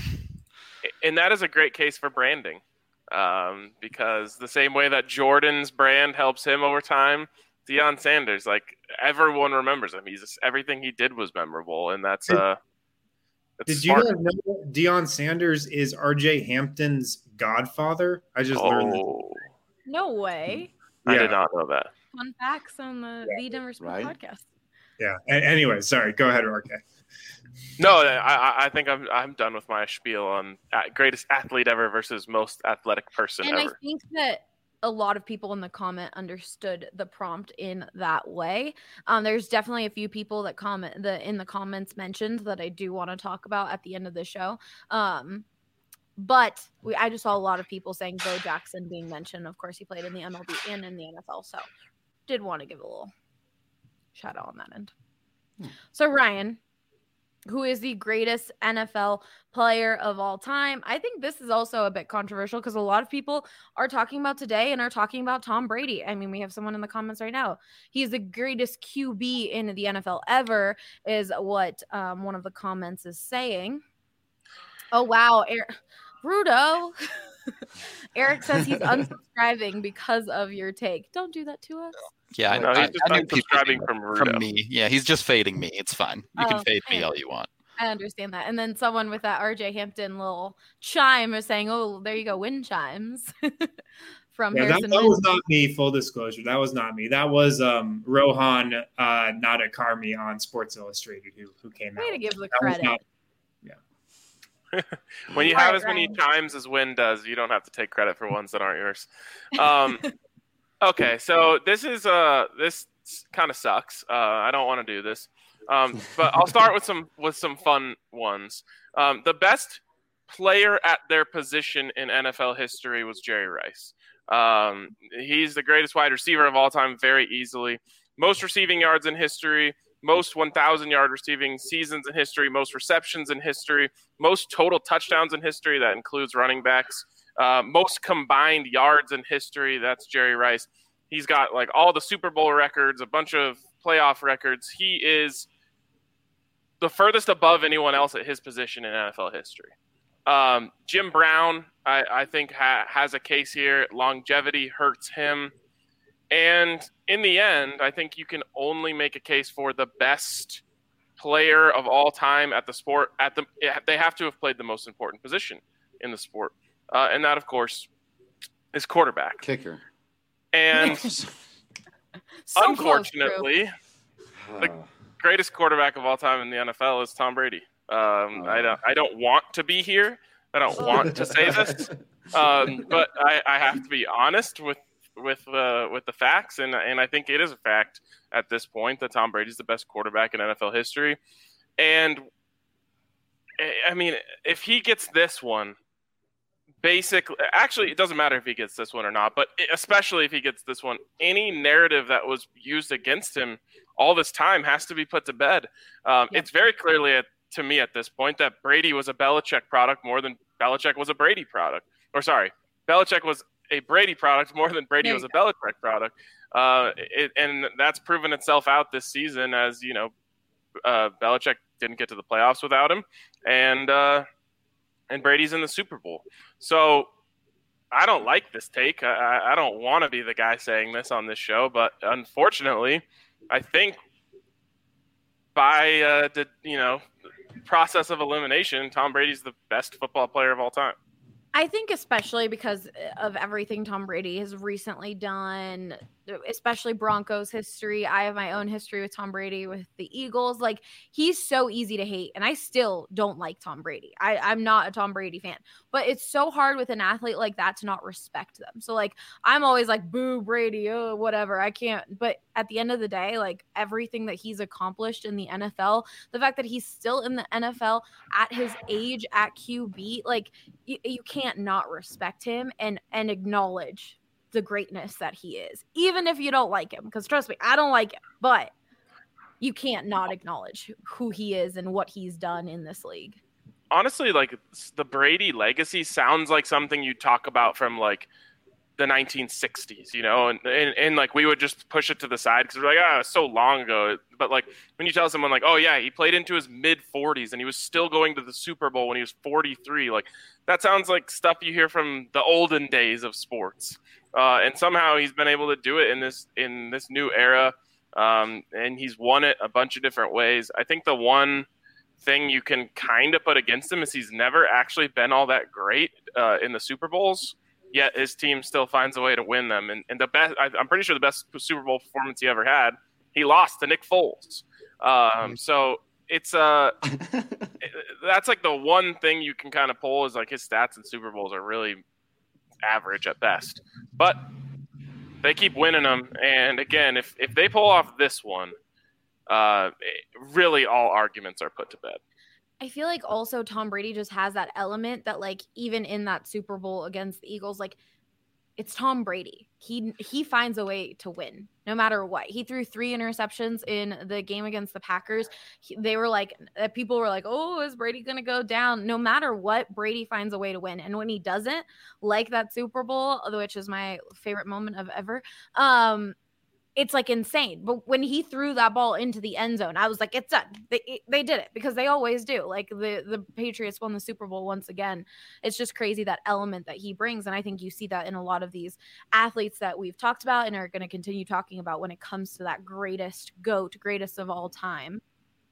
and that is a great case for branding, um, because the same way that Jordan's brand helps him over time, Deion Sanders, like everyone remembers him. He's just, everything he did was memorable, and that's uh. that's Did you smart. guys know Deion Sanders is R J Hampton's godfather? I just learned that. Oh, no way. I Yeah. did not know that. Fun facts on the The Denver Sports Right. Podcast. Yeah. A- anyway, sorry. Go ahead, R K. No, I, I- I think I'm I'm done with my spiel on uh, greatest athlete ever versus most athletic person And I ever. think that a lot of people in the comment understood the prompt in that way. Um, there's definitely a few people that comment the in the comments mentioned that I do want to talk about at the end of the show. Um, but we, I just saw a lot of people saying Bo Jackson being mentioned. Of course, he played in the M L B and in the N F L, so did want to give a little shout out on that end. Hmm. So Ryan, who is the greatest N F L player of all time? I think this is also a bit controversial because a lot of people are talking about today and are talking about Tom Brady. I mean, we have someone in the comments right now. He's the greatest Q B in the N F L ever, is what um, one of the comments is saying. Oh, wow. Er- Rudo. Eric says he's unsubscribing because of your take. Don't do that to us. yeah, I, No, he's I, just I knew people unsubscribing knew from that Rudo. from me. Yeah, he's just fading me. It's fine. You can Oh, fade me yeah. all you want. I understand that. And then someone with that R J Hampton little chime is saying, oh, there you go, wind chimes from Yeah, that, Harrison that Wind. was not me. Full disclosure, that was not me. That was um, Rohan uh, Nadakarmi on Sports Illustrated who who came Way out. to give the That was credit. not- When you All have right, as many Ryan. chimes as Win does, you don't have to take credit for ones that aren't yours. Um, okay, so this is uh this kind of sucks. Uh, I don't want to do this, um, but I'll start with some with some fun ones. Um, the best player at their position in N F L history was Jerry Rice. Um, he's the greatest wide receiver of all time, very easily. Most receiving yards in history. Most one thousand yard receiving seasons in history, most receptions in history, most total touchdowns in history. That includes running backs. Uh, most combined yards in history. That's Jerry Rice. He's got like all the Super Bowl records, a bunch of playoff records. He is the furthest above anyone else at his position in N F L history. Um, Jim Brown, I, I think, ha- has a case here. Longevity hurts him. And in the end, I think you can only make a case for the best player of all time at the sport. At the, they have to have played the most important position in the sport, uh, and that, of course, is quarterback. Kicker. And So close, unfortunately, the greatest quarterback of all time in the N F L is Tom Brady. Um, I don't. I don't want to be here. I don't want to say this, um, but I, I have to be honest with with uh, with the facts, and and I think it is a fact at this point that Tom Brady's the best quarterback in N F L history. And I mean, if he gets this one, basically, actually, it doesn't matter if he gets this one or not, but especially if he gets this one, any narrative that was used against him all this time has to be put to bed. Um, yeah. It's very clearly at, to me at this point that Brady was a Belichick product more than Belichick was a Brady product. Or sorry, Belichick was a Brady product more than Brady was a go. Belichick product. Uh, it, and that's proven itself out this season as, you know, uh, Belichick didn't get to the playoffs without him. And, uh, and Brady's in the Super Bowl. So I don't like this take. I, I don't want to be the guy saying this on this show, but unfortunately, I think by uh, the, you know, process of elimination, Tom Brady's the best football player of all time. I think especially because of everything Tom Brady has recently done, especially Broncos history. I have my own history with Tom Brady with the Eagles. Like, he's so easy to hate, and I still don't like Tom Brady. I, I'm not a Tom Brady fan, but it's so hard with an athlete like that to not respect them. So, like, I'm always like, boo, Brady, oh, whatever. I can't. But at the end of the day, like, everything that he's accomplished in the N F L, the fact that he's still in the N F L at his age at Q B, like, you, you can't not respect him and and acknowledge the greatness that he is, even if you don't like him, because trust me, I don't like him, but you can't not acknowledge who he is and what he's done in this league. Honestly, like, the Brady legacy sounds like something you talk about from like the nineteen sixties, you know, and, and, and like we would just push it to the side because we're like, ah, oh, it's so long ago. But like when you tell someone like, oh yeah, he played into his mid forties and he was still going to the Super Bowl when he was forty-three, like that sounds like stuff you hear from the olden days of sports. Uh, and somehow he's been able to do it in this in this new era, um, and he's won it a bunch of different ways. I think the one thing you can kind of put against him is he's never actually been all that great uh, in the Super Bowls, yet his team still finds a way to win them. And, and the best, I, I'm pretty sure the best Super Bowl performance he ever had, he lost to Nick Foles. Um, so it's uh, that's like the one thing you can kind of pull is like his stats in Super Bowls are really average at best, but they keep winning them. And again, if if they pull off this one, uh, really all arguments are put to bed. I feel like also Tom Brady just has that element that, like, even in that Super Bowl against the Eagles, like, it's Tom Brady. He he finds a way to win no matter what. He threw three interceptions in the game against the Packers. He, they were like, people were like, oh, is Brady going to go down? No matter what, Brady finds a way to win. And when he doesn't, like that Super Bowl, which is my favorite moment of ever, um, it's like insane. But when he threw that ball into the end zone, I was like, it's done. They they did it because they always do. Like the, the Patriots won the Super Bowl once again. It's just crazy that element that he brings. And I think you see that in a lot of these athletes that we've talked about and are going to continue talking about when it comes to that greatest GOAT, greatest of all time.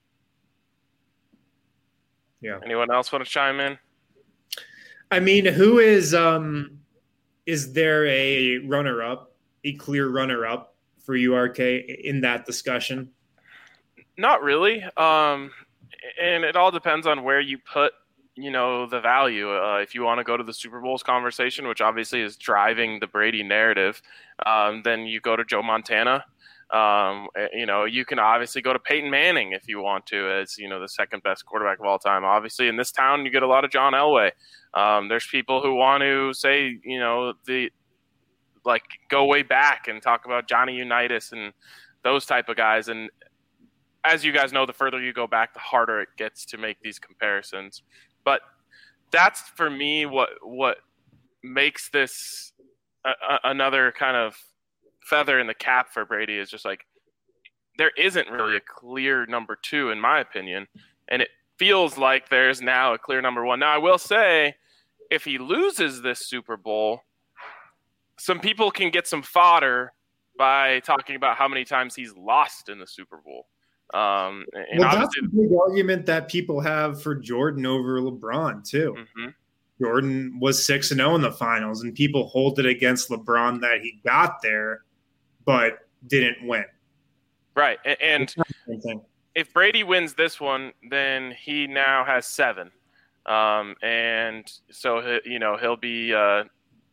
Yeah. Anyone else want to chime in? I mean, who is um is there a runner-up, a clear runner-up for you, R K, in that discussion? Not really. Um, and it all depends on where you put, you know, the value. Uh, if you want to go to the Super Bowls conversation, which obviously is driving the Brady narrative, um, then you go to Joe Montana. Um, you know, you can obviously go to Peyton Manning if you want to, as, you know, the second best quarterback of all time. Obviously, in this town, you get a lot of John Elway. Um, there's people who want to say, you know, the like go way back and talk about Johnny Unitas and those type of guys. And as you guys know, the further you go back, the harder it gets to make these comparisons. But that's for me what what makes this a, a, another kind of feather in the cap for Brady is just like there isn't really a clear number two, in my opinion. And it feels like there's now a clear number one. Now, I will say, if he loses this Super Bowl, some people can get some fodder by talking about how many times he's lost in the Super Bowl. Um, and well, that's a big argument that people have for Jordan over LeBron, too. Mm-hmm. Jordan was six and oh in the finals, and people hold it against LeBron that he got there but didn't win. Right. And if Brady wins this one, then he now has seven. Um, and so, you know, he'll be uh,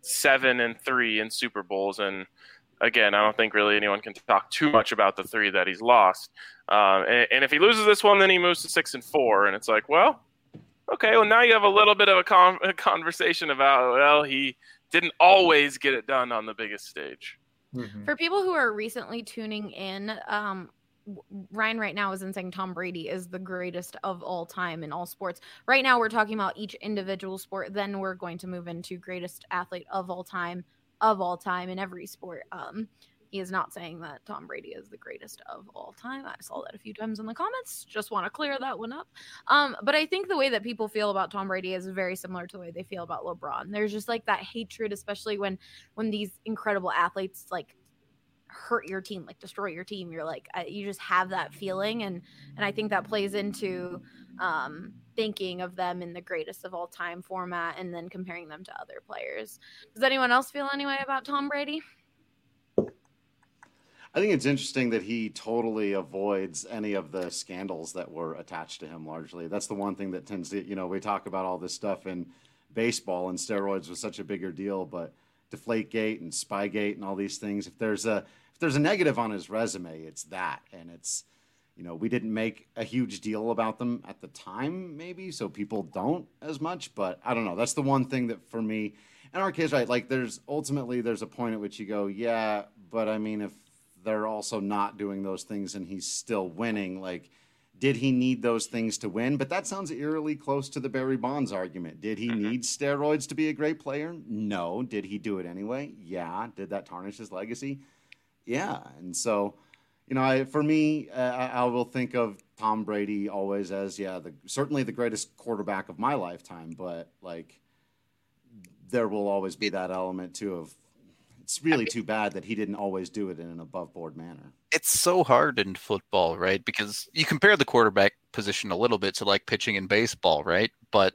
seven and three in Super Bowls. And again, I don't think really anyone can talk too much about the three that he's lost. Um, and, and if he loses this one, then he moves to six and four. And it's like, well, okay, well, now you have a little bit of a, con- a conversation about, well, he didn't always get it done on the biggest stage. Mm-hmm. For people who are recently tuning in, um, Ryan right now isn't saying Tom Brady is the greatest of all time in all sports. Right now we're talking about each individual sport. Then we're going to move into greatest athlete of all time, of all time in every sport. Um, he is not saying that Tom Brady is the greatest of all time. I saw that a few times in the comments. Just want to clear that one up. Um, but I think the way that people feel about Tom Brady is very similar to the way they feel about LeBron. There's just like that hatred, especially when when these incredible athletes like hurt your team, like destroy your team. You're like, uh, you just have that feeling. And, and I think that plays into um, thinking of them in the greatest of all time format and then comparing them to other players. Does anyone else feel any way about Tom Brady? I think it's interesting that he totally avoids any of the scandals that were attached to him largely. That's the one thing that tends to, you know, we talk about all this stuff in baseball and steroids was such a bigger deal, but Deflategate and Spygate and all these things, if there's a if there's a negative on his resume, it's that. And it's, you know, we didn't make a huge deal about them at the time, maybe, so people don't as much, but I don't know. That's the one thing that for me, in our case, right, like there's ultimately there's a point at which you go, yeah, but I mean, if they're also not doing those things and he's still winning, like, did he need those things to win? But that sounds eerily close to the Barry Bonds argument. Did he need steroids to be a great player? No. Did he do it anyway? Yeah. Did that tarnish his legacy? Yeah. And so, you know, I, for me, uh, I, I will think of Tom Brady always as, yeah, the, certainly the greatest quarterback of my lifetime, but like there will always be that element too of, it's really too bad that he didn't always do it in an above board manner. It's so hard in football, right? Because you compare the quarterback position a little bit to like pitching in baseball, right? But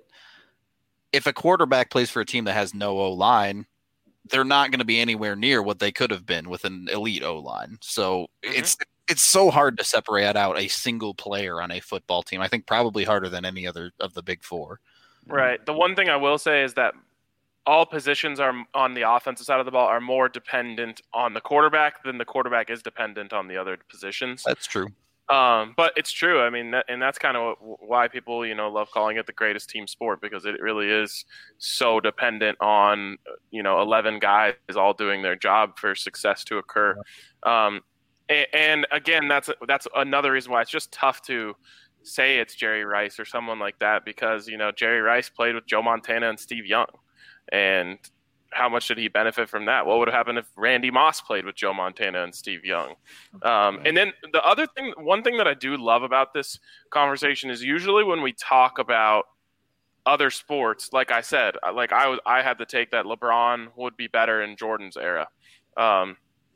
if a quarterback plays for a team that has no O-line, they're not going to be anywhere near what they could have been with an elite O-line. So mm-hmm. it's it's so hard to separate out a single player on a football team. I think probably harder than any other of the big four. Right. The one thing I will say is that all positions are on the offensive side of the ball are more dependent on the quarterback than the quarterback is dependent on the other positions. That's true. Um, but it's true. I mean, that, and that's kind of why people, you know, love calling it the greatest team sport, because it really is so dependent on, you know, eleven guys all doing their job for success to occur. Um, and, and again, that's, that's another reason why it's just tough to say it's Jerry Rice or someone like that, because, you know, Jerry Rice played with Joe Montana and Steve Young. And how much did he benefit from that? What would have happened if Randy Moss played with Joe Montana and Steve Young? Um, and then the other thing, one thing that I do love about this conversation is usually when we talk about other sports, like I said, like I was, I had to take that LeBron would be better in Jordan's era. Um,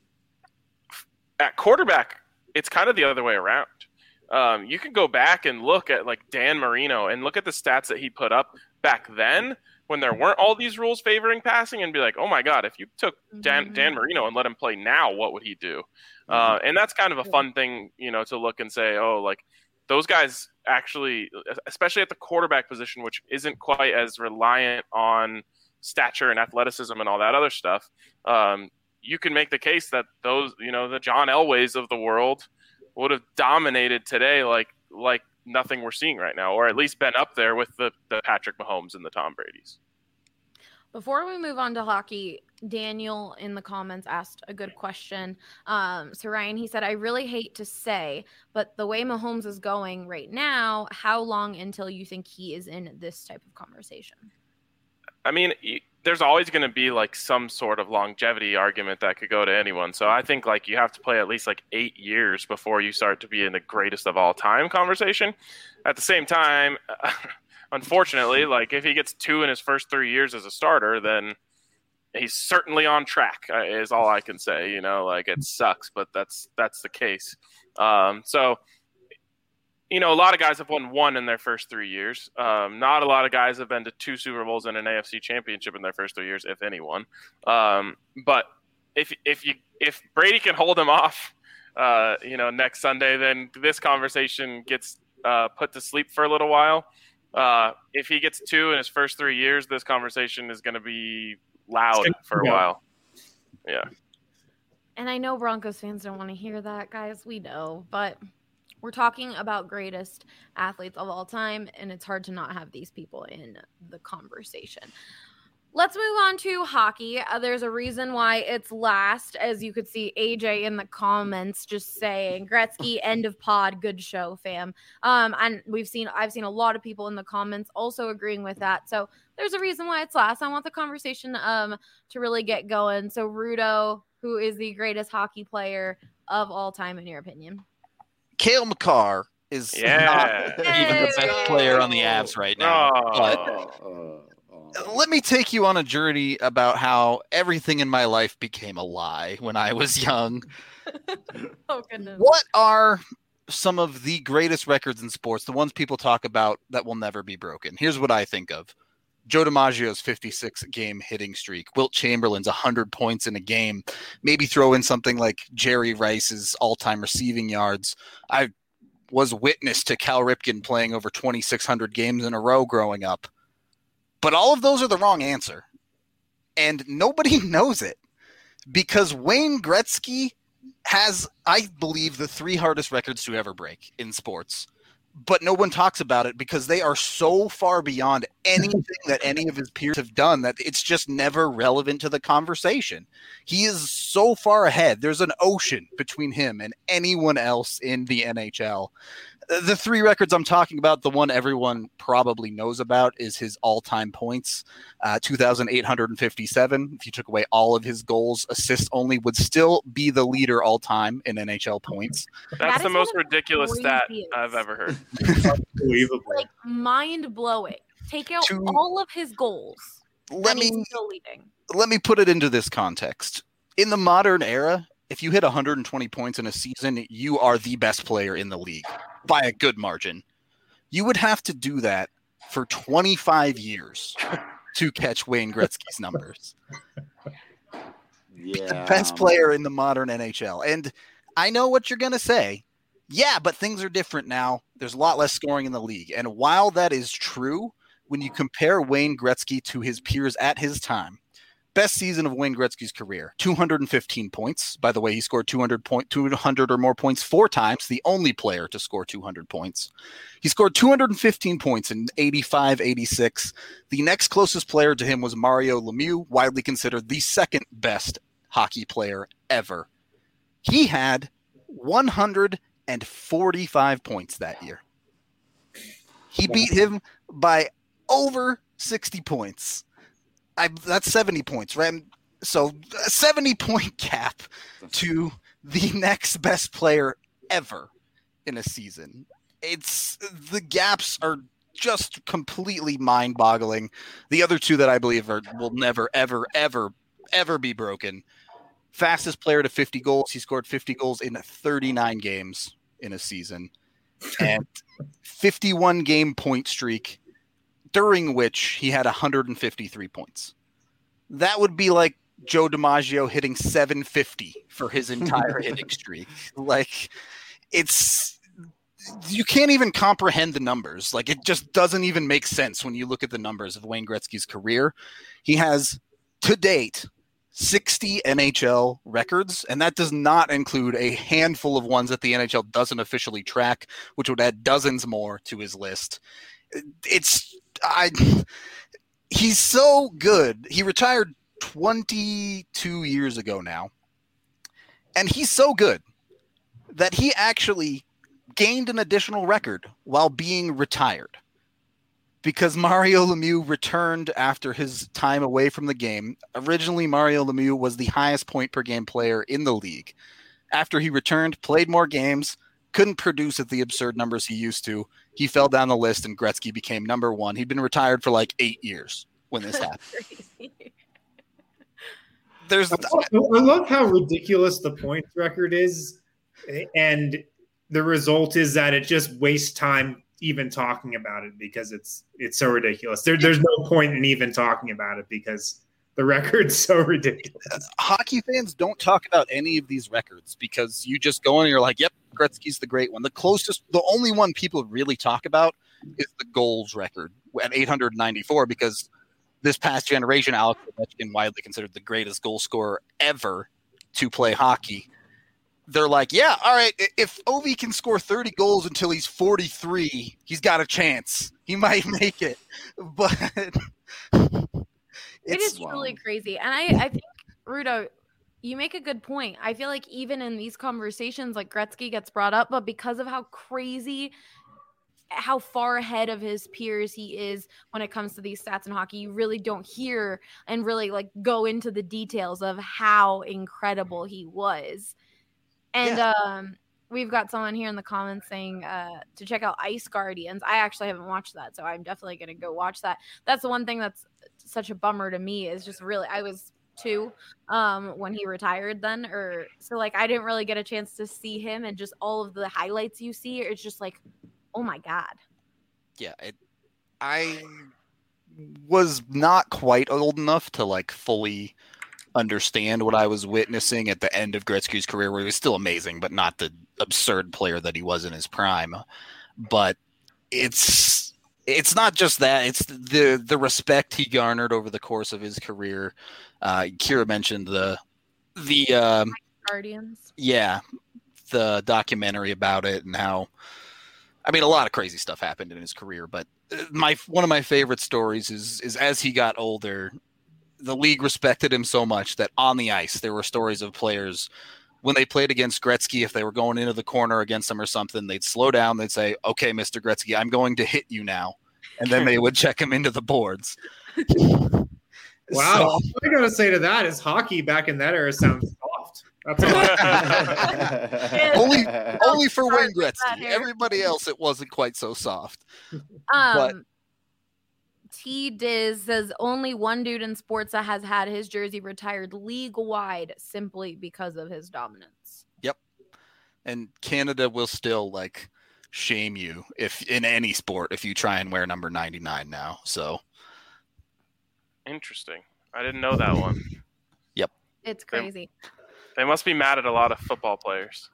at quarterback, it's kind of the other way around. Um, you can go back and look at like Dan Marino and look at the stats that he put up back then, when there weren't all these rules favoring passing, and be like, oh my God, if you took Dan, Dan Marino and let him play now, what would he do? Uh, and that's kind of a fun thing, you know, to look and say, oh, like those guys actually, especially at the quarterback position, which isn't quite as reliant on stature and athleticism and all that other stuff. Um, you can make the case that those, you know, the John Elways of the world would have dominated today, like, like, nothing we're seeing right now, or at least been up there with the, the Patrick Mahomes and the Tom Brady's. Before we move on to hockey, Daniel in the comments asked a good question. Um, so Ryan, he said, I really hate to say, but the way Mahomes is going right now, how long until you think he is in this type of conversation? I mean, there's always going to be like some sort of longevity argument that could go to anyone. So I think like you have to play at least like eight years before you start to be in the greatest of all time conversation. At the same time, unfortunately, like if he gets two in his first three years as a starter, then he's certainly on track, uh, is all I can say. You know, like it sucks, but that's that's the case. Um, so. You know, a lot of guys have won one in their first three years. Um, not a lot of guys have been to two Super Bowls and an A F C championship in their first three years, if anyone. Um, but if if you if Brady can hold him off, uh, you know, next Sunday, then this conversation gets uh, put to sleep for a little while. Uh, if he gets two in his first three years, this conversation is going to be loud for a while. Yeah. And I know Broncos fans don't want to hear that, guys. We know, but we're talking about greatest athletes of all time, and it's hard to not have these people in the conversation. Let's move on to hockey. Uh, there's a reason why it's last, as you could see A J in the comments just saying, Gretzky, end of pod, good show, fam. Um, and we've seen, I've seen a lot of people in the comments also agreeing with that. So there's a reason why it's last. I want the conversation um to really get going. So Rudo, who is the greatest hockey player of all time, in your opinion? Cale Makar is yeah. not even the best player on the Avs right now. Oh. But Uh, uh, let me take you on a journey about how everything in my life became a lie when I was young. Oh, goodness. What are some of the greatest records in sports, the ones people talk about that will never be broken? Here's what I think of. Joe DiMaggio's fifty-six game hitting streak, Wilt Chamberlain's one hundred points in a game, maybe throw in something like Jerry Rice's all-time receiving yards. I was witness to Cal Ripken playing over twenty-six hundred games in a row growing up. But all of those are the wrong answer. And nobody knows it because Wayne Gretzky has, I believe, the three hardest records to ever break in sports. But no one talks about it because they are so far beyond anything that any of his peers have done that it's just never relevant to the conversation. He is so far ahead. There's an ocean between him and anyone else in the N H L. The three records I'm talking about, the one everyone probably knows about is his all-time points, uh, two thousand eight hundred fifty-seven. If you took away all of his goals, assists only would still be the leader all-time in N H L points. That's That the is most one of the ridiculous stat craziest. I've ever heard. Unbelievable. Like, mind-blowing. Take out To- all of his goals. Let and he's me still leading. let me put it into this context. In the modern era, if you hit one hundred twenty points in a season, you are the best player in the league by a good margin. You would have to do that for twenty-five years to catch Wayne Gretzky's numbers. yeah. The best player in the modern N H L. And I know what you're going to say. Yeah, but things are different now. There's a lot less scoring in the league. And while that is true, when you compare Wayne Gretzky to his peers at his time, best season of Wayne Gretzky's career, two hundred fifteen points. By the way, he scored two hundred, point, two hundred or more points four times, the only player to score two hundred points. He scored two hundred fifteen points in eighty-five eighty-six. The next closest player to him was Mario Lemieux, widely considered the second best hockey player ever. He had one hundred forty-five points that year. He beat him by over sixty points. I, that's seventy points, right? So a seventy point gap to the next best player ever in a season. It's the gaps are just completely mind boggling. The other two that I believe are will never, ever, ever, ever be broken. Fastest player to fifty goals. He scored fifty goals in thirty-nine games in a season, and fifty-one game point streak, during which he had one hundred fifty-three points. That would be like Joe DiMaggio hitting seven fifty for his entire hitting streak. Like, it's you can't even comprehend the numbers. Like, it just doesn't even make sense when you look at the numbers of Wayne Gretzky's career. He has, to date, sixty N H L records, and that does not include a handful of ones that the N H L doesn't officially track, which would add dozens more to his list. It's I he's so good. He retired twenty-two years ago now, and he's so good that he actually gained an additional record while being retired. Because Mario Lemieux returned after his time away from the game. Originally, Mario Lemieux was the highest point per game player in the league. After he returned, played more games, couldn't produce at the absurd numbers he used to. He fell down the list, and Gretzky became number one. He'd been retired for like eight years when this happened. There's, I love how ridiculous the points record is, and the result is that it just wastes time even talking about it because it's it's so ridiculous. There, there's no point in even talking about it because the record's so ridiculous. Hockey fans don't talk about any of these records because you just go in and you're like, yep, Gretzky's the great one. The closest, the only one people really talk about is the goals record at eight hundred ninety-four because this past generation, Alex Ovechkin, widely considered the greatest goal scorer ever to play hockey. They're like, yeah, all right, if Ovi can score thirty goals until he's forty-three, he's got a chance. He might make it. But it is truly wild. crazy. And I, I think, Rudo, you make a good point. I feel like even in these conversations, like Gretzky gets brought up, but because of how crazy, how far ahead of his peers he is when it comes to these stats in hockey, you really don't hear and really like go into the details of how incredible he was. And Yeah. um, we've got someone here in the comments saying uh, to check out Ice Guardians. I actually haven't watched that, so I'm definitely going to go watch that. That's the one thing that's such a bummer to me is just really, I was two um, when he retired then, or so like I didn't really get a chance to see him, and just all of the highlights you see, it's just like, oh my God. Yeah, it, I was not quite old enough to like fully understand what I was witnessing at the end of Gretzky's career, where he was still amazing, but not the absurd player that he was in his prime. But it's it's not just that; it's the the respect he garnered over the course of his career. Uh, Kira mentioned the the um, Guardians. yeah, the documentary about it and how. I mean, a lot of crazy stuff happened in his career, but my one of my favorite stories is is as he got older, the league respected him so much that on the ice there were stories of players when they played against Gretzky, if they were going into the corner against him or something, they'd slow down, they'd say, "Okay, Mister Gretzky, I'm going to hit you now," and then they would check him into the boards. Wow, So- all I gotta say to that is hockey back in that era sounds soft. That's all. only only for sorry Wayne for that, Gretzky. Eric. Everybody else, it wasn't quite so soft. Um, But- T Diz says only one dude in sports that has had his jersey retired league wide simply because of his dominance. And Canada will still like shame you if in any sport if you try and wear number ninety-nine now. So Interesting. I didn't know that one. It's crazy. They must be mad at a lot of football players.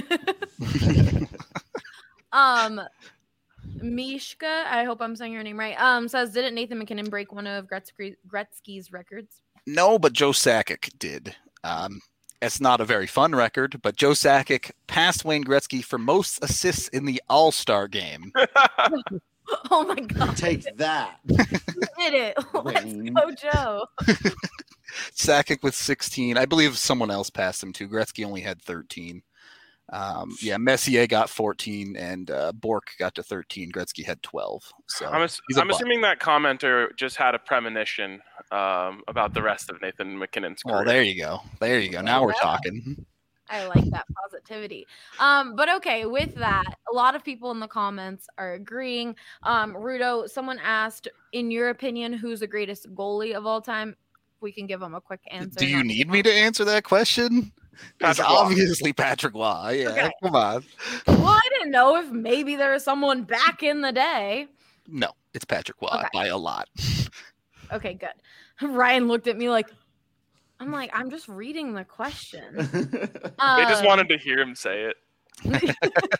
um, Mishka, I hope I'm saying your name right. Um, says didn't Nathan McKinnon break one of Gretzky, Gretzky's records? no, but Joe Sakic did. Um, it's not a very fun record, but Joe Sakic passed Wayne Gretzky for most assists in the All-Star game. Oh my God, Take that. you did it! Let's Wayne. go, Joe. Sakic with sixteen. I believe someone else passed him too. Gretzky only had thirteen. Um, yeah, Messier got fourteen, and uh, Bork got to thirteen. Gretzky had twelve. So I'm, ass- he's a I'm butt. assuming that commenter just had a premonition um, about the rest of Nathan McKinnon's career. Well, there you go. There you go. Now we're Yeah. talking. I like that positivity. Um, but okay, with that, a lot of people in the comments are agreeing. Um, Rudo, someone asked, in your opinion, who's the greatest goalie of all time? We can give them a quick answer. Do you Not- need me to answer that question? It's Patrick Waugh. obviously Patrick Waugh. Yeah, Okay. come on. Well, I didn't know if maybe there was someone back in the day. No, it's Patrick Waugh Okay. by a lot. Okay, good. Ryan looked at me like, I'm like, I'm just reading the question. They just Um, wanted to hear him say it.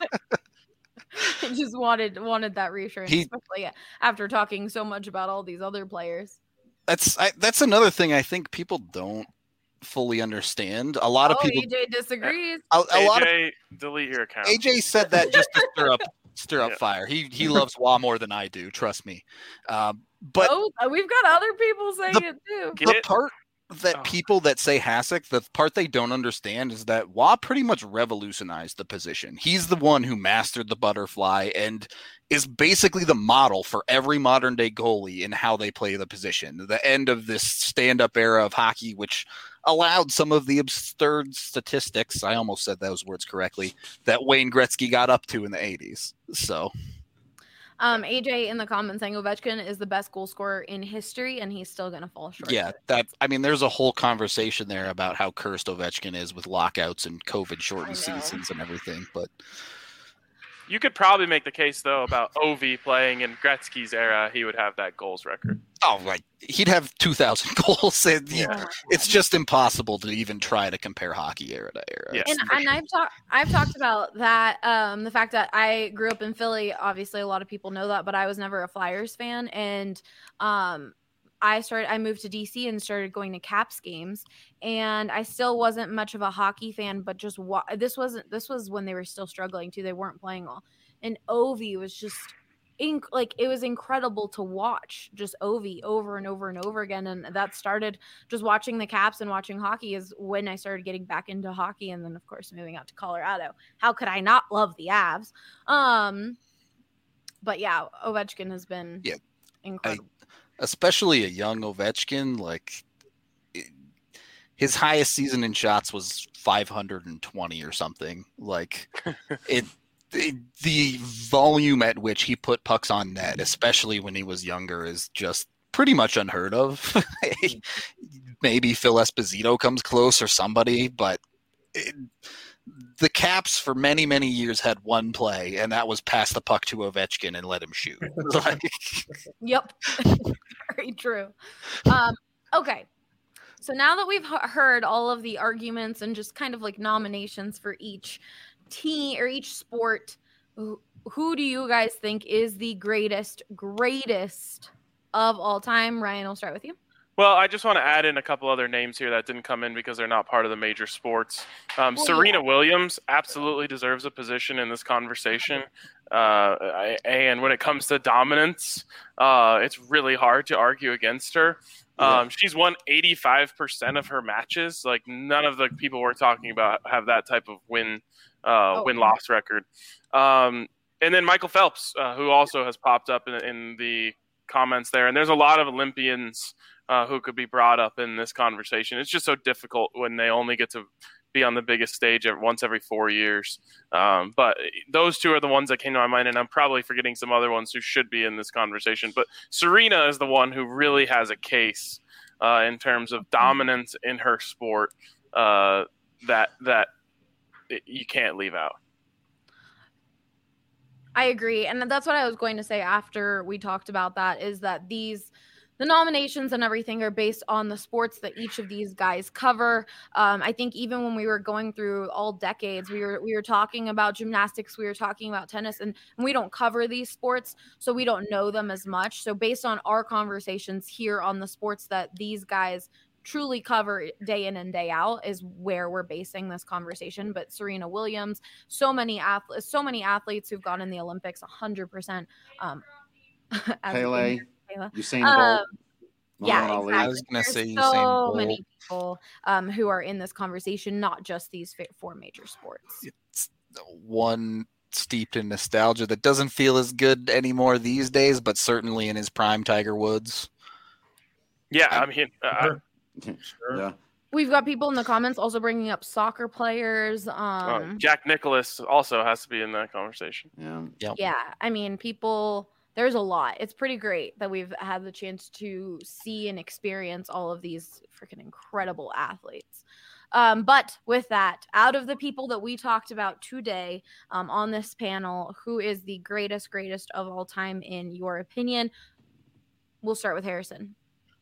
just wanted wanted that reassurance, He- especially after talking so much about all these other players. That's I, that's another thing I think people don't fully understand. A lot of Oh, people, E J disagrees. a, a lot of A J, delete your account. A J said that just to stir up stir up Yeah. fire. He he loves Waugh more than I do. Trust me. Um, but oh, we've got other people saying The- it too. Get the it? part that Oh. people that say Hasek, the part they don't understand is that Waugh pretty much revolutionized the position. He's the one who mastered the butterfly and is basically the model for every modern day goalie in how they play the position. The end of this stand-up era of hockey, which allowed some of the absurd statistics, I almost said those words correctly, that Wayne Gretzky got up to in the eighties. So Um, A J in the comments saying Ovechkin is the best goal scorer in history, and he's still going to fall short. yeah, that I mean, there's a whole conversation there about how cursed Ovechkin is with lockouts and COVID I shortened know. seasons and everything. But You could probably make the case though about Ovi playing in Gretzky's era. He would have that goals record. oh, like he'd have two thousand goals. And he- Oh my it's just impossible to even try to compare hockey era to era. Yeah. And, for and sure. I've talked I've talked about that, um, the fact that I grew up in Philly. Obviously, a lot of people know that, but I was never a Flyers fan. And um, I started, I moved to D C and started going to Caps games, and I still wasn't much of a hockey fan, but just wa- this wasn't, this was when they were still struggling too. They weren't playing well. And Ovi was just inc- like, it was incredible to watch just Ovi over and over and over again. And that started just watching the Caps and watching hockey is when I started getting back into hockey. And then of course, moving out to Colorado, how could I not love the Avs? Um, but yeah, Ovechkin has been yeah, incredible. I- especially a young Ovechkin, like it, his highest season in shots was five hundred twenty or something. Like it, it, the volume at which he put pucks on net, especially when he was younger, is just pretty much unheard of. Maybe Phil Esposito comes close or somebody, but it, the Caps for many, many years had one play, and that was pass the puck to Ovechkin and let him shoot. Like, yep. Very true. Um, okay. So now that we've h- heard all of the arguments and just kind of like nominations for each team or each sport, who, who do you guys think is the greatest, greatest of all time? Ryan, I'll start with you. Well, I just want to add in a couple other names here that didn't come in because they're not part of the major sports. Um, well, Serena yeah. Williams absolutely deserves a position in this conversation. Uh, and when it comes to dominance, uh, it's really hard to argue against her. Um, yeah. She's won eighty-five percent of her matches. Like, none of the people we're talking about have that type of win uh, oh. win-loss record. Um, and then Michael Phelps, uh, who also has popped up in, in the comments there. And there's a lot of Olympians Uh, who could be brought up in this conversation. It's just so difficult when they only get to be on the biggest stage once every four years. Um, but those two are the ones that came to my mind, and I'm probably forgetting some other ones who should be in this conversation. But Serena is the one who really has a case uh, in terms of dominance in her sport uh, that that you can't leave out. I agree. And that's what I was going to say after we talked about that, is that these – the nominations and everything are based on the sports that each of these guys cover. Um, I think even when we were going through all decades, we were we were talking about gymnastics, we were talking about tennis, and, and we don't cover these sports, so we don't know them as much. So based on our conversations here on the sports that these guys truly cover day in and day out is where we're basing this conversation. But Serena Williams, so many athletes, so many athletes who've gone in the Olympics, one hundred percent. Um, Pele. Usain um, Bolt. Yeah, exactly. I was gonna say There's so Usain Bolt. many people um, who are in this conversation, not just these four major sports. It's one steeped in nostalgia that doesn't feel as good anymore these days, but certainly in his prime, Tiger Woods. Yeah, I mean, uh, Sure. Yeah. We've got people in the comments also bringing up soccer players. Um, uh, Jack Nicklaus also has to be in that conversation. Yeah. Yep. Yeah, I mean, people, there's a lot. It's pretty great that we've had the chance to see and experience all of these freaking incredible athletes. Um, but with that, out of the people that we talked about today um, on this panel, who is the greatest, greatest of all time in your opinion? We'll start with Harrison.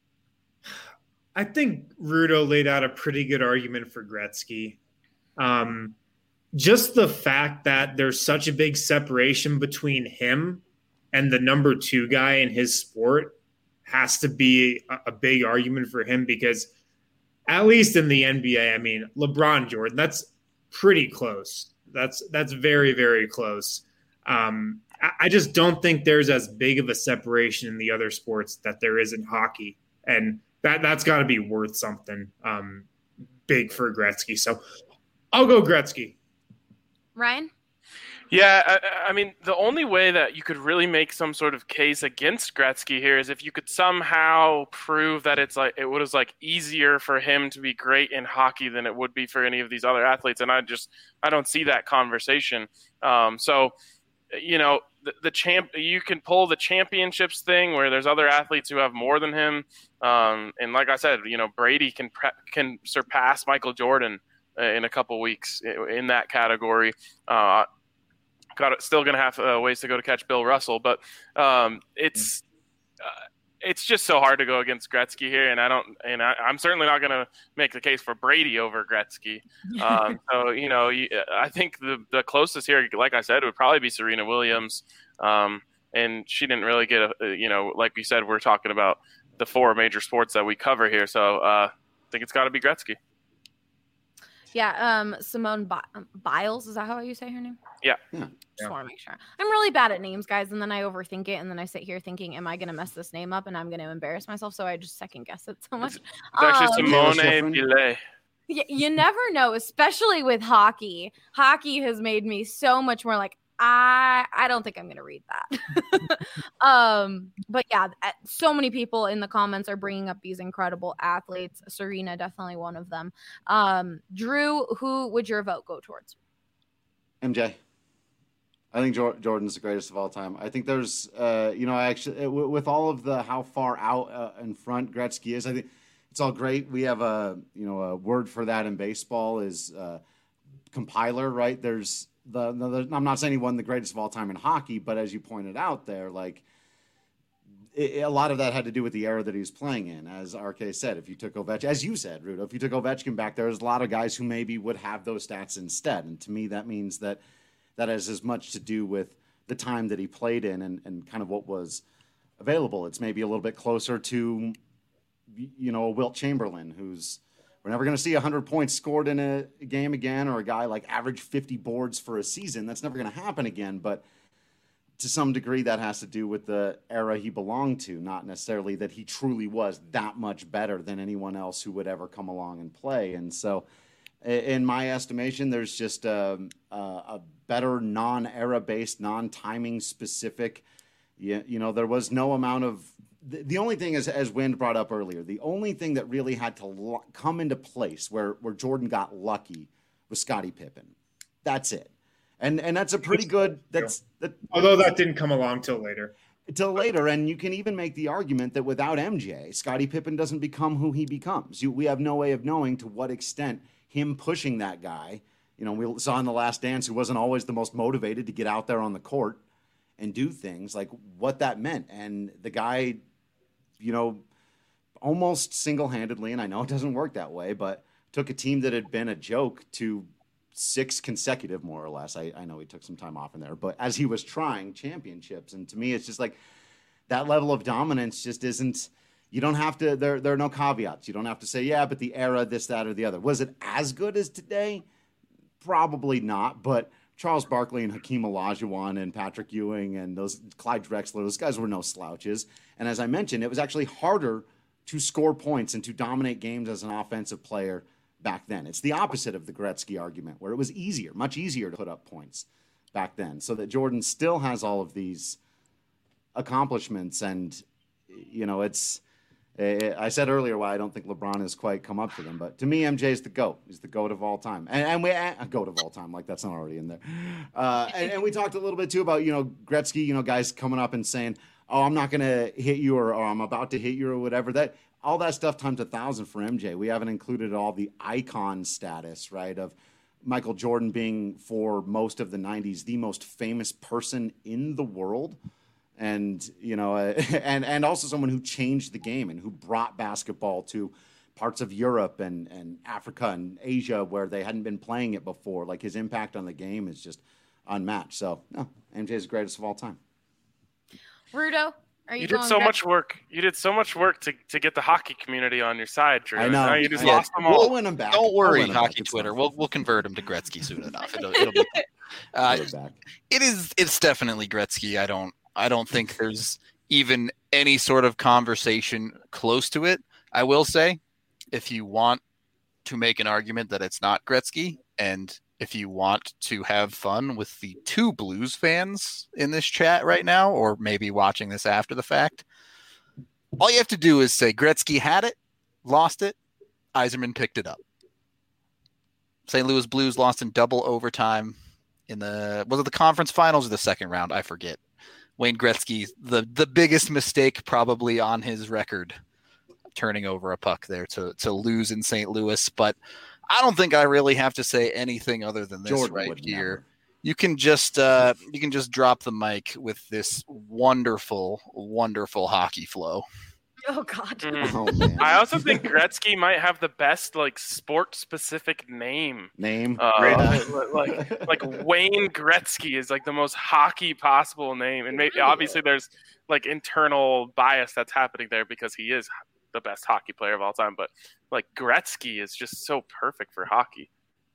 I think Rudo laid out a pretty good argument for Gretzky. Um, just the fact that there's such a big separation between him and the number two guy in his sport has to be a, a big argument for him, because at least in the N B A, I mean, LeBron Jordan, that's pretty close. That's that's very, very close. Um, I, I just don't think there's as big of a separation in the other sports that there is in hockey. And that, that's got to be worth something um, big for Gretzky. So I'll go Gretzky. Ryan? Yeah, I, I mean, the only way that you could really make some sort of case against Gretzky here is if you could somehow prove that it's like it was like easier for him to be great in hockey than it would be for any of these other athletes, and I just I don't see that conversation. Um, so, you know, the, the champ you can pull the championships thing where there's other athletes who have more than him, um, and like I said, you know, Brady can pre- can surpass Michael Jordan in a couple weeks in that category. Uh, Got still going to have uh, ways to go to catch Bill Russell, but um, it's uh, it's just so hard to go against Gretzky here, and I don't, and I, I'm certainly not going to make the case for Brady over Gretzky. Um, so you know, you, I think the the closest here, like I said, would probably be Serena Williams, um, and she didn't really get a, you know, like we said, we're talking about the four major sports that we cover here. So uh, I think it's got to be Gretzky. Yeah, um, Simone Bi- Biles, is that how you say her name? Yeah. Yeah. Just Yeah. want to make sure. I'm really bad at names, guys, and then I overthink it, and then I sit here thinking, am I going to mess this name up, and I'm going to embarrass myself, so I just second guess it so much. It's actually Um, Simone Taylor Schifrin. Billet. Y- you never know, especially with hockey. Hockey has made me so much more like, I I don't think I'm going to read that. um, but yeah, uh, so many people in the comments are bringing up these incredible athletes. Serena, definitely one of them. Um, Drew, who would your vote go towards? M J. I think Jor- Jordan's the greatest of all time. I think there's, uh, you know, I actually, uh, w- with all of the how far out uh, in front Gretzky is, I think it's all great. We have a, you know, a word for that in baseball is uh, compiler, right? There's the, the, the, I'm not saying he won the greatest of all time in hockey, but as you pointed out there, like it, a lot of that had to do with the era that he was playing in. As R K said, if you took Ovechkin, as you said, Rudo, if you took Ovechkin back, there's a lot of guys who maybe would have those stats instead. And to me, that means that that has as much to do with the time that he played in and, and kind of what was available. It's maybe a little bit closer to, you know, a Wilt Chamberlain, who's, we're never going to see one hundred points scored in a game again, or a guy like average fifty boards for a season. That's never going to happen again. But to some degree, that has to do with the era he belonged to, not necessarily that he truly was that much better than anyone else who would ever come along and play. And so in my estimation, there's just a, a, a better non-era based, non-timing specific, you, you know, there was no amount of, the, the only thing is, as Wind brought up earlier, the only thing that really had to lo- come into place where, where Jordan got lucky was Scottie Pippen. That's it. And and that's a pretty good, that's, that, Although that didn't come along till later. Till later, and you can even make the argument that without M J, Scottie Pippen doesn't become who he becomes. You, we have no way of knowing to what extent him pushing that guy, you know, we saw in The Last Dance, who wasn't always the most motivated to get out there on the court and do things, like what that meant. And the guy, you know, almost single-handedly, and I know it doesn't work that way, but took a team that had been a joke to six consecutive, more or less. I, I know he took some time off in there, but as he was trying championships, and to me, it's just like that level of dominance just isn't, you don't have to, there, there are no caveats. You don't have to say, yeah, but the era, this, that, or the other. Was it as good as today? Probably not, but Charles Barkley and Hakeem Olajuwon and Patrick Ewing and those Clyde Drexler, those guys were no slouches. And as I mentioned, it was actually harder to score points and to dominate games as an offensive player back then. It's the opposite of the Gretzky argument, where it was easier, much easier to put up points back then. So that Jordan still has all of these accomplishments. And, you know, it's, I said earlier why I don't think LeBron has quite come up to them, but to me, M J is the GOAT. He's the GOAT of all time. And, and we, a GOAT of all time, like that's not already in there. Uh, and, and we talked a little bit too about, you know, Gretzky, you know, guys coming up and saying, oh, I'm not going to hit you, or, or I'm about to hit you, or whatever. That, all that stuff times a thousand for M J. We haven't included all the icon status, right, of Michael Jordan being, for most of the nineties, the most famous person in the world. And, you know, uh, and, and also someone who changed the game and who brought basketball to parts of Europe and, and Africa and Asia where they hadn't been playing it before. Like, his impact on the game is just unmatched. So, no, M J is the greatest of all time. Rudo, are you, You did so much work. You did so much work to, to get the hockey community on your side, Drew. I know. Now you just I lost know. them all. We'll win them back. Don't worry, We'll win 'em hockey back. It's Twitter. fine. We'll we'll convert him to Gretzky soon enough. It'll, it'll be. Uh, We'll back. it is. It's definitely Gretzky. I don't. I don't think there's even any sort of conversation close to it. I will say, if you want to make an argument that it's not Gretzky, and if you want to have fun with the two Blues fans in this chat right now, or maybe watching this after the fact, all you have to do is say Gretzky had it, lost it, Yzerman picked it up. Saint Louis Blues lost in double overtime in the, was it the conference finals or the second round? I forget. Wayne Gretzky, the, the biggest mistake probably on his record, turning over a puck there to, to lose in Saint Louis. But I don't think I really have to say anything other than this Jordan right would here. never. You can just uh, you can just drop the mic with this wonderful, wonderful hockey flow. Oh God. Mm. Oh man. I also think Gretzky might have the best like sport-specific name. Name. Uh, Yeah. like like Wayne Gretzky is like the most hockey possible name, and maybe obviously there's like internal bias that's happening there because he is the best hockey player of all time. But like Gretzky is just so perfect for hockey.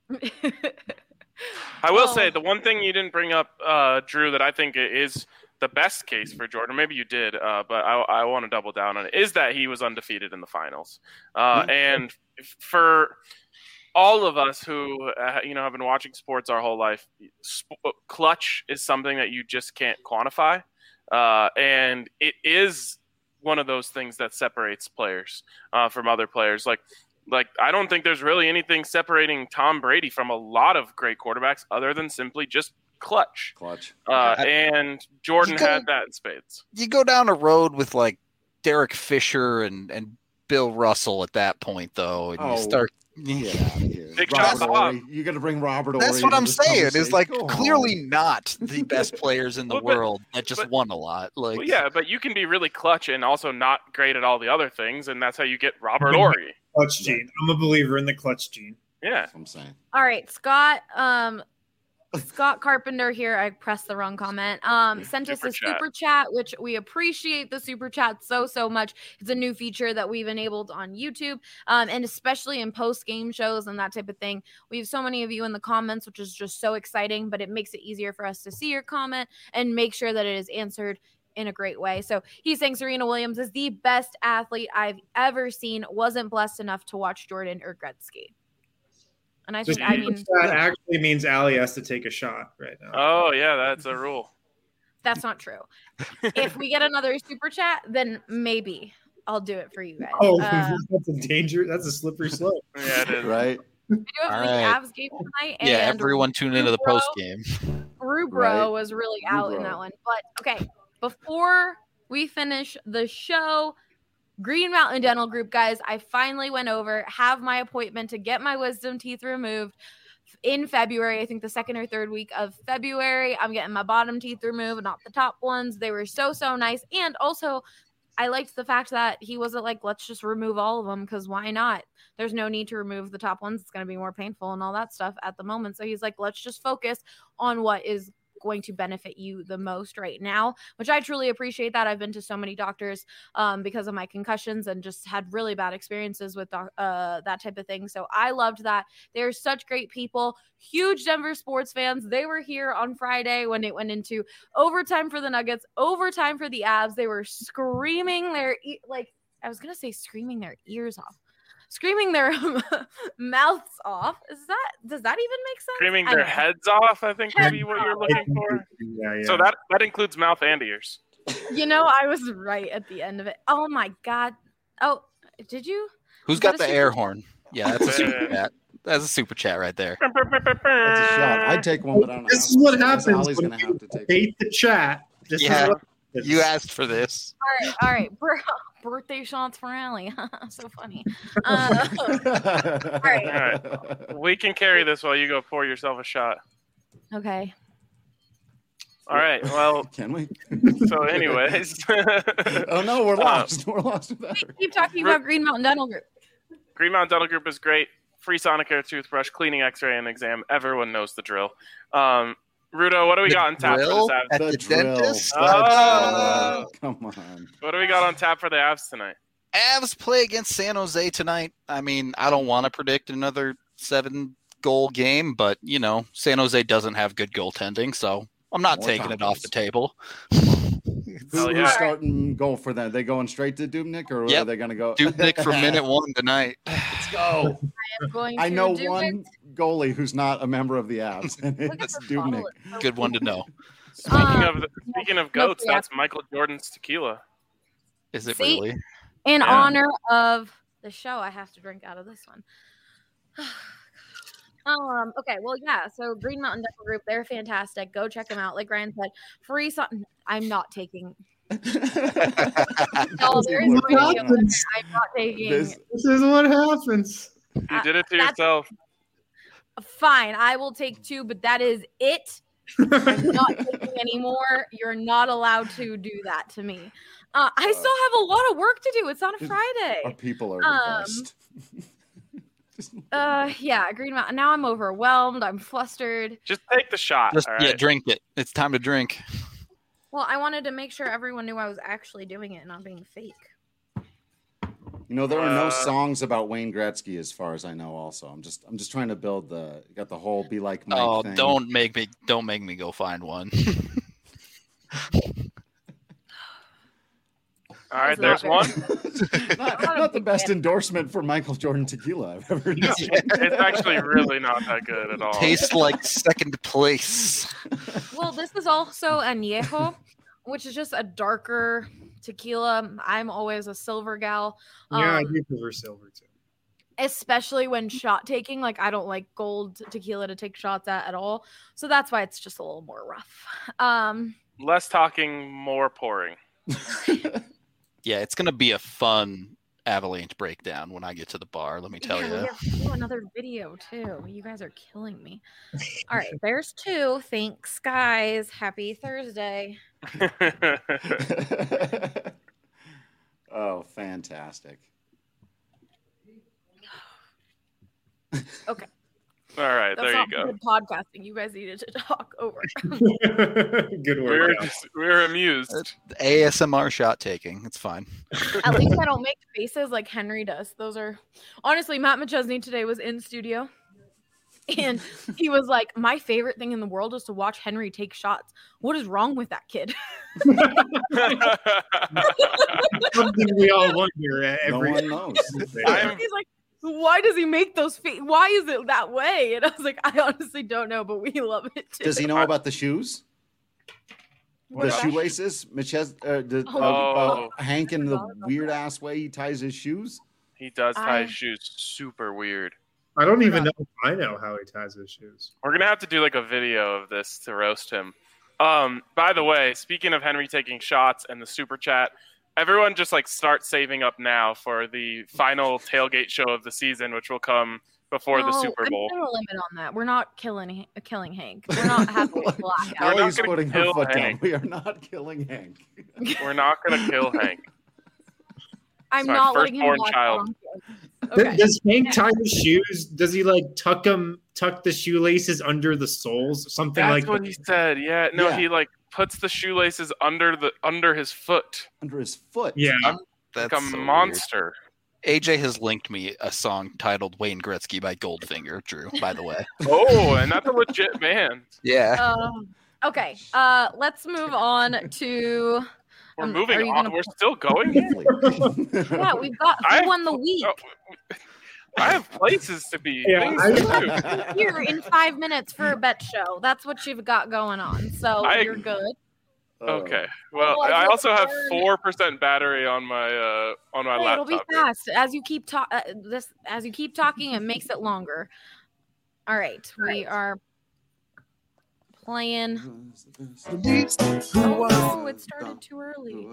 I will Oh. say the one thing you didn't bring up, uh, Drew, that I think is the best case for Jordan, maybe you did, uh, but I, I want to double down on it, is that he was undefeated in the finals. Uh, and for all of us who uh, you know have been watching sports our whole life, sp- clutch is something that you just can't quantify, uh, and it is one of those things that separates players uh, from other players. Like. Like, I don't think there's really anything separating Tom Brady from a lot of great quarterbacks other than simply just clutch. Clutch. Uh, and Jordan You go- had that in spades. You go down a road with like Derek Fisher and, and Bill Russell at that point, though, and Oh, you start. Get out of here. Big Robert shot, Ory. You got to bring Robert Ory. That's what into I'm this saying. Is like conversation. Go clearly on. not the best players in the Well, but- world that just but- won a lot. Like, Well, yeah, but you can be really clutch and also not great at all the other things, and that's how you get Robert Ory. Clutch gene. I'm a believer in the clutch gene. Yeah. That's what I'm saying. All right, Scott. Um, Scott Carpenter here. I pressed the wrong comment. Um, sent us Super a chat. super chat, which we appreciate the super chat so so much. It's a new feature that we've enabled on YouTube, um, and especially in post game shows and that type of thing. We have so many of you in the comments, which is just so exciting. But it makes it easier for us to see your comment and make sure that it is answered in a great way. So he's saying Serena Williams is the best athlete I've ever seen. Wasn't blessed enough to watch Jordan or Gretzky. And I The think, I super mean, chat actually means Allie has to take a shot right now. Oh, yeah, that's a rule. that's not true. If we get another super chat, then maybe I'll do it for you guys. Oh, Uh, that's a danger. That's a slippery slope. Yeah, it is. Right? we do have All the right. Avs game tonight. yeah, and everyone tune into the Rubro- post game. Rubro Right. was really out in Rubro. that one. But okay, before we finish the show, Green Mountain Dental Group, guys, I finally went over, have my appointment to get my wisdom teeth removed in February. I think the second or third week of February. I'm getting my bottom teeth removed, not the top ones. They were so, so nice. And also, I liked the fact that he wasn't like, let's just remove all of them, because why not? There's no need to remove the top ones. It's going to be more painful and all that stuff at the moment. So he's like, let's just focus on what is going to benefit you the most right now, which I truly appreciate that. I've been to so many doctors um, because of my concussions and just had really bad experiences with doc- uh, that type of thing. So I loved that. They're such great people, huge Denver sports fans. They were here on Friday when it went into overtime for the Nuggets, overtime for the Avs. They were screaming their, e- like, I was going to say screaming their ears off. Screaming their mouths off. Is that, does that even make sense? Screaming I their don't know. heads off, I think, Heads maybe what you're looking for. Yeah, yeah. So that, that includes mouth and ears. You know, I was right at the end of it. Oh my God. Oh, did you? Who's Is that got a the super air chat? horn? Yeah, that's a super chat. That's a super chat right there. That's a shot. I'd take one, but I don't This is have what one. happens Ali's when gonna you have to take hate the chat. This Yeah. is what happens. You asked for this. All right. All right. Bir- birthday shots for Allie. So funny. Uh, one. All right. All right. We can carry this while you go pour yourself a shot. okay. All right. Well, Can we? so anyways, Oh no, we're Uh, lost. We're lost without her. Keep talking about Green Mountain Dental Group. Green Mountain Dental Group is great. Free Sonicare toothbrush, cleaning, X-ray, and exam. Everyone knows the drill. Um, Rudo, what do we The got on tap drill for at this Avs? the drill. dentist? Let's Oh. go. Come on. What do we got on tap for the Avs tonight? Avs play against San Jose tonight. I mean, I don't want to predict another seven goal game, but you know, San Jose doesn't have good goaltending, so I'm not More taking it off the confidence. table. Who, Hell who's yeah. starting goal for them? They going straight to Dubnik, or Yep. are they going to go? Dubnik for minute one tonight. Let's go. I'm going I to know do one it. goally who's not a member of the Avs, and Look at it's this bottle. Dubnik. It's so Good one to know. Speaking Uh, of speaking of no, goats, yeah. that's Michael Jordan's tequila. Is it See? really? In Yeah. honor of the show, I have to drink out of this one. um. Okay. Well, yeah. So Green Mountain Dental Group, they're fantastic. Go check them out. Like Ryan said, free. So- I'm not taking. No, there is What free deal. happens? I'm not taking. This- This is what happens. You Uh, did it to that's- yourself. Fine, I will take two, but that is it. I'm not taking any more. You're not allowed to do that to me. Uh, I Uh, still have a lot of work to do. It's on a Our Friday. people are the Um, best. Just- Uh, yeah, Green Mountain. Now I'm overwhelmed. I'm flustered. Just take the shot. Just all yeah, right? drink it. It's time to drink. Well, I wanted to make sure everyone knew I was actually doing it and not being fake. You know, there are no Uh, songs about Wayne Gretzky, as far as I know. Also, I'm just, I'm just trying to build the, got the whole "Be Like Mike" Oh, thing. don't make me don't make me go find one. All right, That was there's not one. not, Not a not the big best fan. endorsement for Michael Jordan tequila I've ever No, seen. it's actually really not that good at all. Tastes like second place. Well, this is also añejo, which is just a darker tequila. I'm always a silver gal. Yeah, I Um, do prefer silver too. especially when shot taking. Like, I don't like gold tequila to take shots at at all. So that's why it's just a little more rough. Um, Less talking, more pouring. Yeah, it's gonna be a fun Avalanche breakdown when I get to the bar. Let me tell yeah, you. we have to do another video too. You guys are killing me. All right, there's two. Thanks, guys. Happy Thursday. Oh, fantastic. Okay. All right, That's there you not go. good podcasting. You guys needed to talk over. Good We work. were Cal. just, we were amused. A S M R shot taking. It's fine. At least I don't make faces like Henry does. Those are honestly, Matt McChesney today was in studio and he was like, my favorite thing in the world is to watch Henry take shots. What is wrong with that kid? Something we all wonder uh, No every one knows. I'm- He's like, why does he make those feet? Why is it that way? And I was like, I honestly don't know, but we love it too. Does he know about the shoes? What The about- shoelaces? Mitchez, uh, the, Oh. uh, uh, Hank and the Forgot about weird ass way he ties his shoes? He does tie I- his shoes super weird. I don't even know if I know how he ties his shoes. We're gonna have to do like a video of this to roast him. Um, by the way, speaking of Henry taking shots and the super chat, everyone just like start saving up now for the final tailgate show of the season, which will come before the No, Super Bowl. I'm putting a limit on that. We're not killing killing Hank. We're not having a blackout. We're not Ellie's gonna putting her kill foot Hank. down. We are not killing Hank. We're not gonna kill Hank. I'm Sorry, not letting him firstborn watch child. along. Th- Okay. Does Hank tie his shoes? Does he like tuck them, tuck the shoelaces under the soles, something That's like what that? he said. Yeah, no, Yeah. he like puts the shoelaces under the under his foot Under his foot. Yeah, That's like a so weird. monster. A J has linked me a song titled Wayne Gretzky by Goldfinger, Drew, by the way. Oh, and that's a legit man. Yeah. Um, okay. Uh, let's move on to. We're Um, moving are you on. gonna- We're still going. here? Yeah, we've got I- who won the week. Oh, I have places to be. Yeah, things I- to do. Here in five minutes for a bet show. That's what you've got going on. So I- you're good. Oh. Okay. Well, Well, I let's also have learn- four percent battery on my uh on my Hey, it'll laptop. be fast as you keep talk. Uh, this as you keep talking, it makes it longer. All right, we are playing. Oh no, it started too early.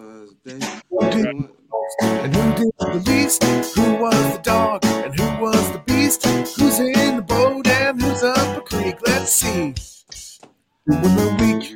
And who did the least? Who was the dog? And who was the beast? Who's in the boat and who's up a creek? Let's see. Who won the week?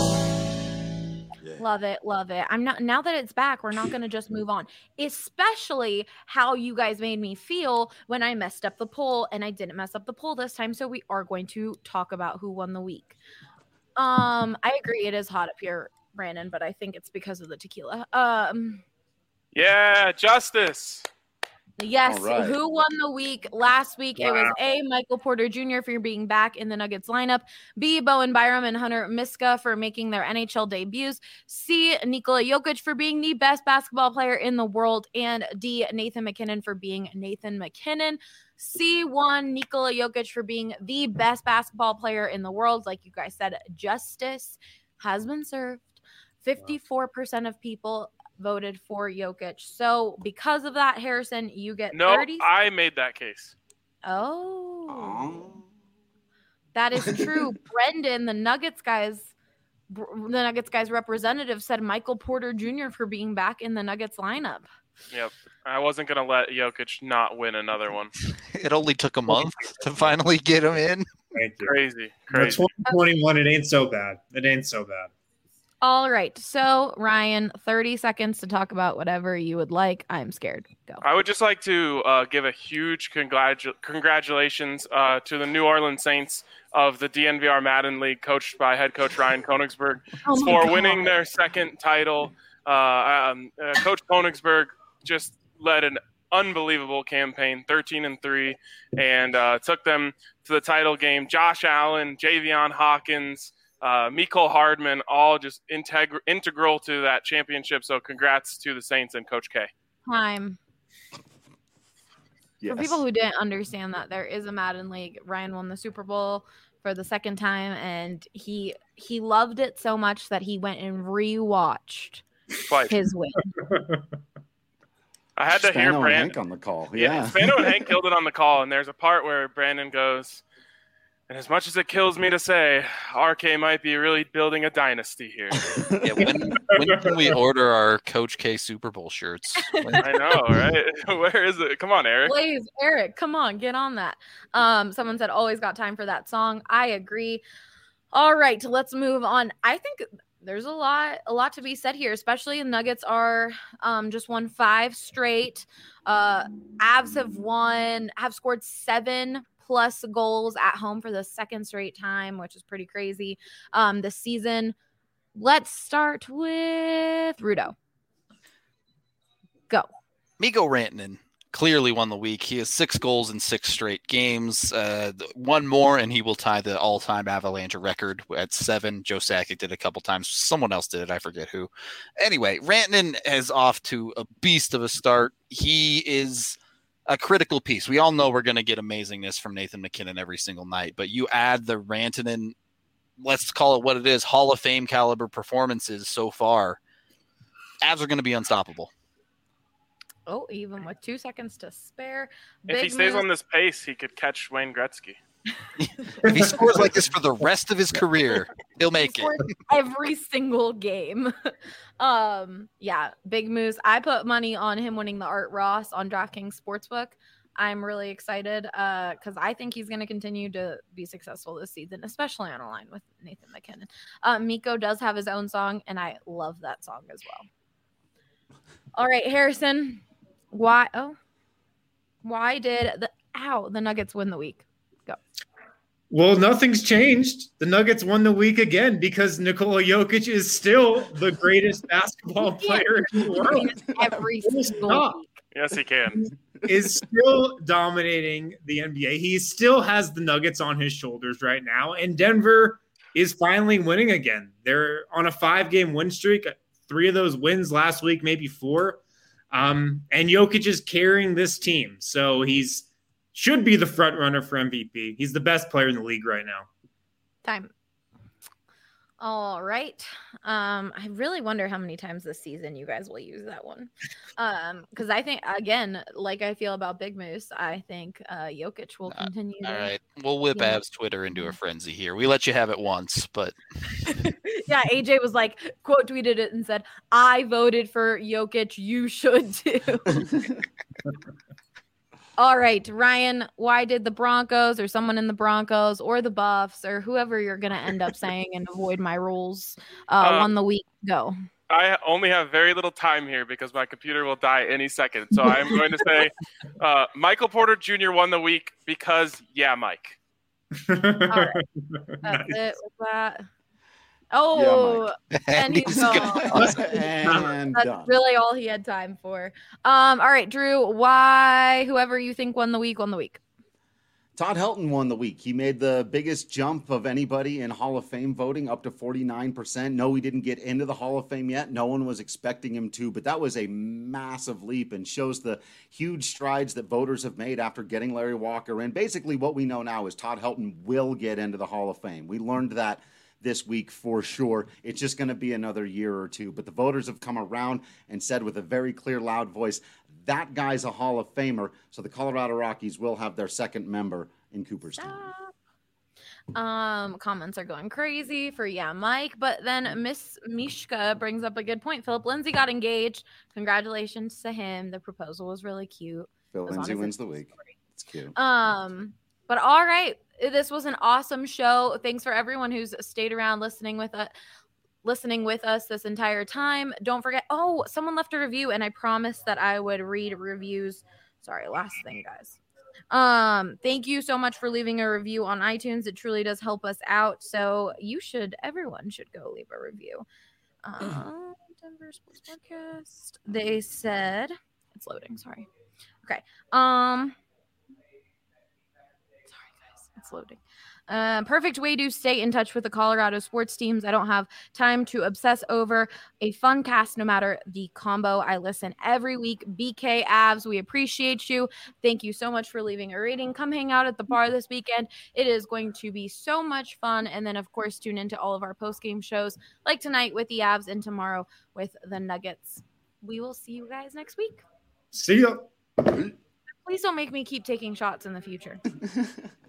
Love it, love it. I'm not now that it's back, we're not going to just move on. Especially how you guys made me feel when I messed up the poll, and I didn't mess up the poll this time, so we are going to talk about who won the week. Um, I agree it is hot up here, Brandon, but I think it's because of the tequila. Um, Yeah, justice. yes, All right. who won the week? Last week it was Wow. A, Michael Porter Junior for being back in the Nuggets lineup, B, Bowen Byram and Hunter Miska for making their N H L debuts, C, Nikola Jokic for being the best basketball player in the world, and D, Nathan McKinnon for being Nathan McKinnon. C one, Nikola Jokic for being the best basketball player in the world. Like you guys said, justice has been served. fifty-four percent of people voted for Jokic. So because of that, Harrison, you get No, thirty. I made that case. Oh, Oh. that is true. Brendan, the Nuggets guys, the Nuggets guys representative, said Michael Porter Junior for being back in the Nuggets lineup. Yep. I wasn't gonna let Jokic not win another one. It only took a month to finally get him in. Thank you. Crazy, For crazy. twenty twenty-one, it ain't so bad. It ain't so bad. All right. So, Ryan, thirty seconds to talk about whatever you would like. I'm scared. Go. I would just like to uh, give a huge congratu- congratulations uh, to the New Orleans Saints of the D N V R Madden League, coached by head coach Ryan Koenigsberg, Oh my for God. winning their second title. Uh, um, uh, Coach Koenigsberg just led an unbelievable campaign, thirteen and three, and uh, took them to the title game. Josh Allen, Javion Hawkins, uh, Mecole Hardman, all just integ- integral to that championship. So congrats to the Saints and Coach K. Time. Yes. For people who didn't understand that, there is a Madden League. Ryan won the Super Bowl for the second time, and he he loved it so much that he went and rewatched Twice. his win. I had to hear Spano and Brandon. Hank on the call. Yeah, Yeah. Spano and Hank killed it on the call, and there's a part where Brandon goes, and as much as it kills me to say, R K might be really building a dynasty here. Yeah, when, when can we order our Coach K Super Bowl shirts? I know, right? Where is it? Come on, Eric. Blaze, Eric, come on, get on that. Um, someone said always got time for that song. I agree. All right, let's move on. I think there's a lot, a lot to be said here, especially the Nuggets are um, just won five straight. Uh, Avs have won, have scored seven plus goals at home for the second straight time, which is pretty crazy um, this season. Let's start with Rudo. Go. Mikko Rantanen clearly won the week. He has six goals in six straight games. Uh, one more, and he will tie the all-time Avalanche record at seven. Joe Sakic did it a couple times. Someone else did it. I forget who. Anyway, Rantanen is off to a beast of a start. He is a critical piece. We all know we're going to get amazingness from Nathan MacKinnon every single night, but you add the Rantanen, let's call it what it is, Hall of Fame caliber performances so far, Avs are going to be unstoppable. Oh, even with two seconds to spare. If he Big stays move. on this pace, he could catch Wayne Gretzky. If he scores like this for the rest of his career, he'll make He it. scores every single game. um, yeah, big moves. I put money on him winning the Art Ross on DraftKings Sportsbook. I'm really excited because uh, I think he's going to continue to be successful this season, especially on a line with Nathan MacKinnon. Uh, Mikko does have his own song, and I love that song as well. All right, Harrison. Why? Oh, why did the ow the Nuggets win the week? Go. Well, nothing's changed. The Nuggets won the week again because Nikola Jokic is still the greatest basketball player in the world. Every single Stop. week. Yes, he can. Is still dominating the N B A. He still has the Nuggets on his shoulders right now, and Denver is finally winning again. They're on a five-game win streak. Three of those wins last week, maybe four. Um, and Jokic is carrying this team. So he's should be the front runner for M V P. He's the best player in the league right now. Time. All right. Um, I really wonder how many times this season you guys will use that one. Um, because I think again, like I feel about Big Moose, I think uh Jokic will Uh, continue. All to, right. We'll whip Yeah. Avs Twitter into a frenzy here. We let you have it once, but Yeah, A J was like quote tweeted it and said, "I voted for Jokic. You should too." All right, Ryan, why did the Broncos or someone in the Broncos or the Buffs or whoever you're going to end up saying and avoid my rules uh, Uh, won the week? Go. I only have very little time here because my computer will die any second. So I'm going to say uh, Michael Porter Junior won the week because, yeah, Mike. All right. That's Nice. it with that. Oh, and he's gone. gone. and That's done. really all he had time for. Um, all right, Drew, why whoever you think won the week won the week? Todd Helton won the week. He made the biggest jump of anybody in Hall of Fame voting, up to forty-nine percent. No, he didn't get into the Hall of Fame yet. No one was expecting him to, but that was a massive leap and shows the huge strides that voters have made after getting Larry Walker in. Basically, what we know now is Todd Helton will get into the Hall of Fame. We learned that this week for sure. It's just going to be another year or two. But the voters have come around and said with a very clear, loud voice, that guy's a Hall of Famer. So the Colorado Rockies will have their second member in Cooperstown. Um, comments are going crazy for yeah, Mike. But then Miss Mishka brings up a good point. Philip Lindsay got engaged. Congratulations to him. The proposal was really cute. Phil It was on Lindsay his wins the Instagram week. story. It's cute. Um, but all right, this was an awesome show. Thanks for everyone who's stayed around listening with us. listening with us this entire time. Don't forget, oh, someone left a review, and I promised that I would read reviews. Sorry, last thing, guys. Um, thank you so much for leaving a review on iTunes. It truly does help us out. So you should, everyone should go leave a review. Um, Denver Sports Podcast. They said it's loading. Sorry. Okay. Um, sorry guys, it's loading. Uh, perfect way to stay in touch with the Colorado sports teams. I don't have time to obsess over a fun cast no matter the combo. I listen every week. B K Avs, we appreciate you. Thank you so much for leaving a rating. Come hang out at the bar this weekend. It is going to be so much fun. And then, of course, tune into all of our post-game shows like tonight with the Avs and tomorrow with the Nuggets. We will see you guys next week. See ya. Please don't make me keep taking shots in the future.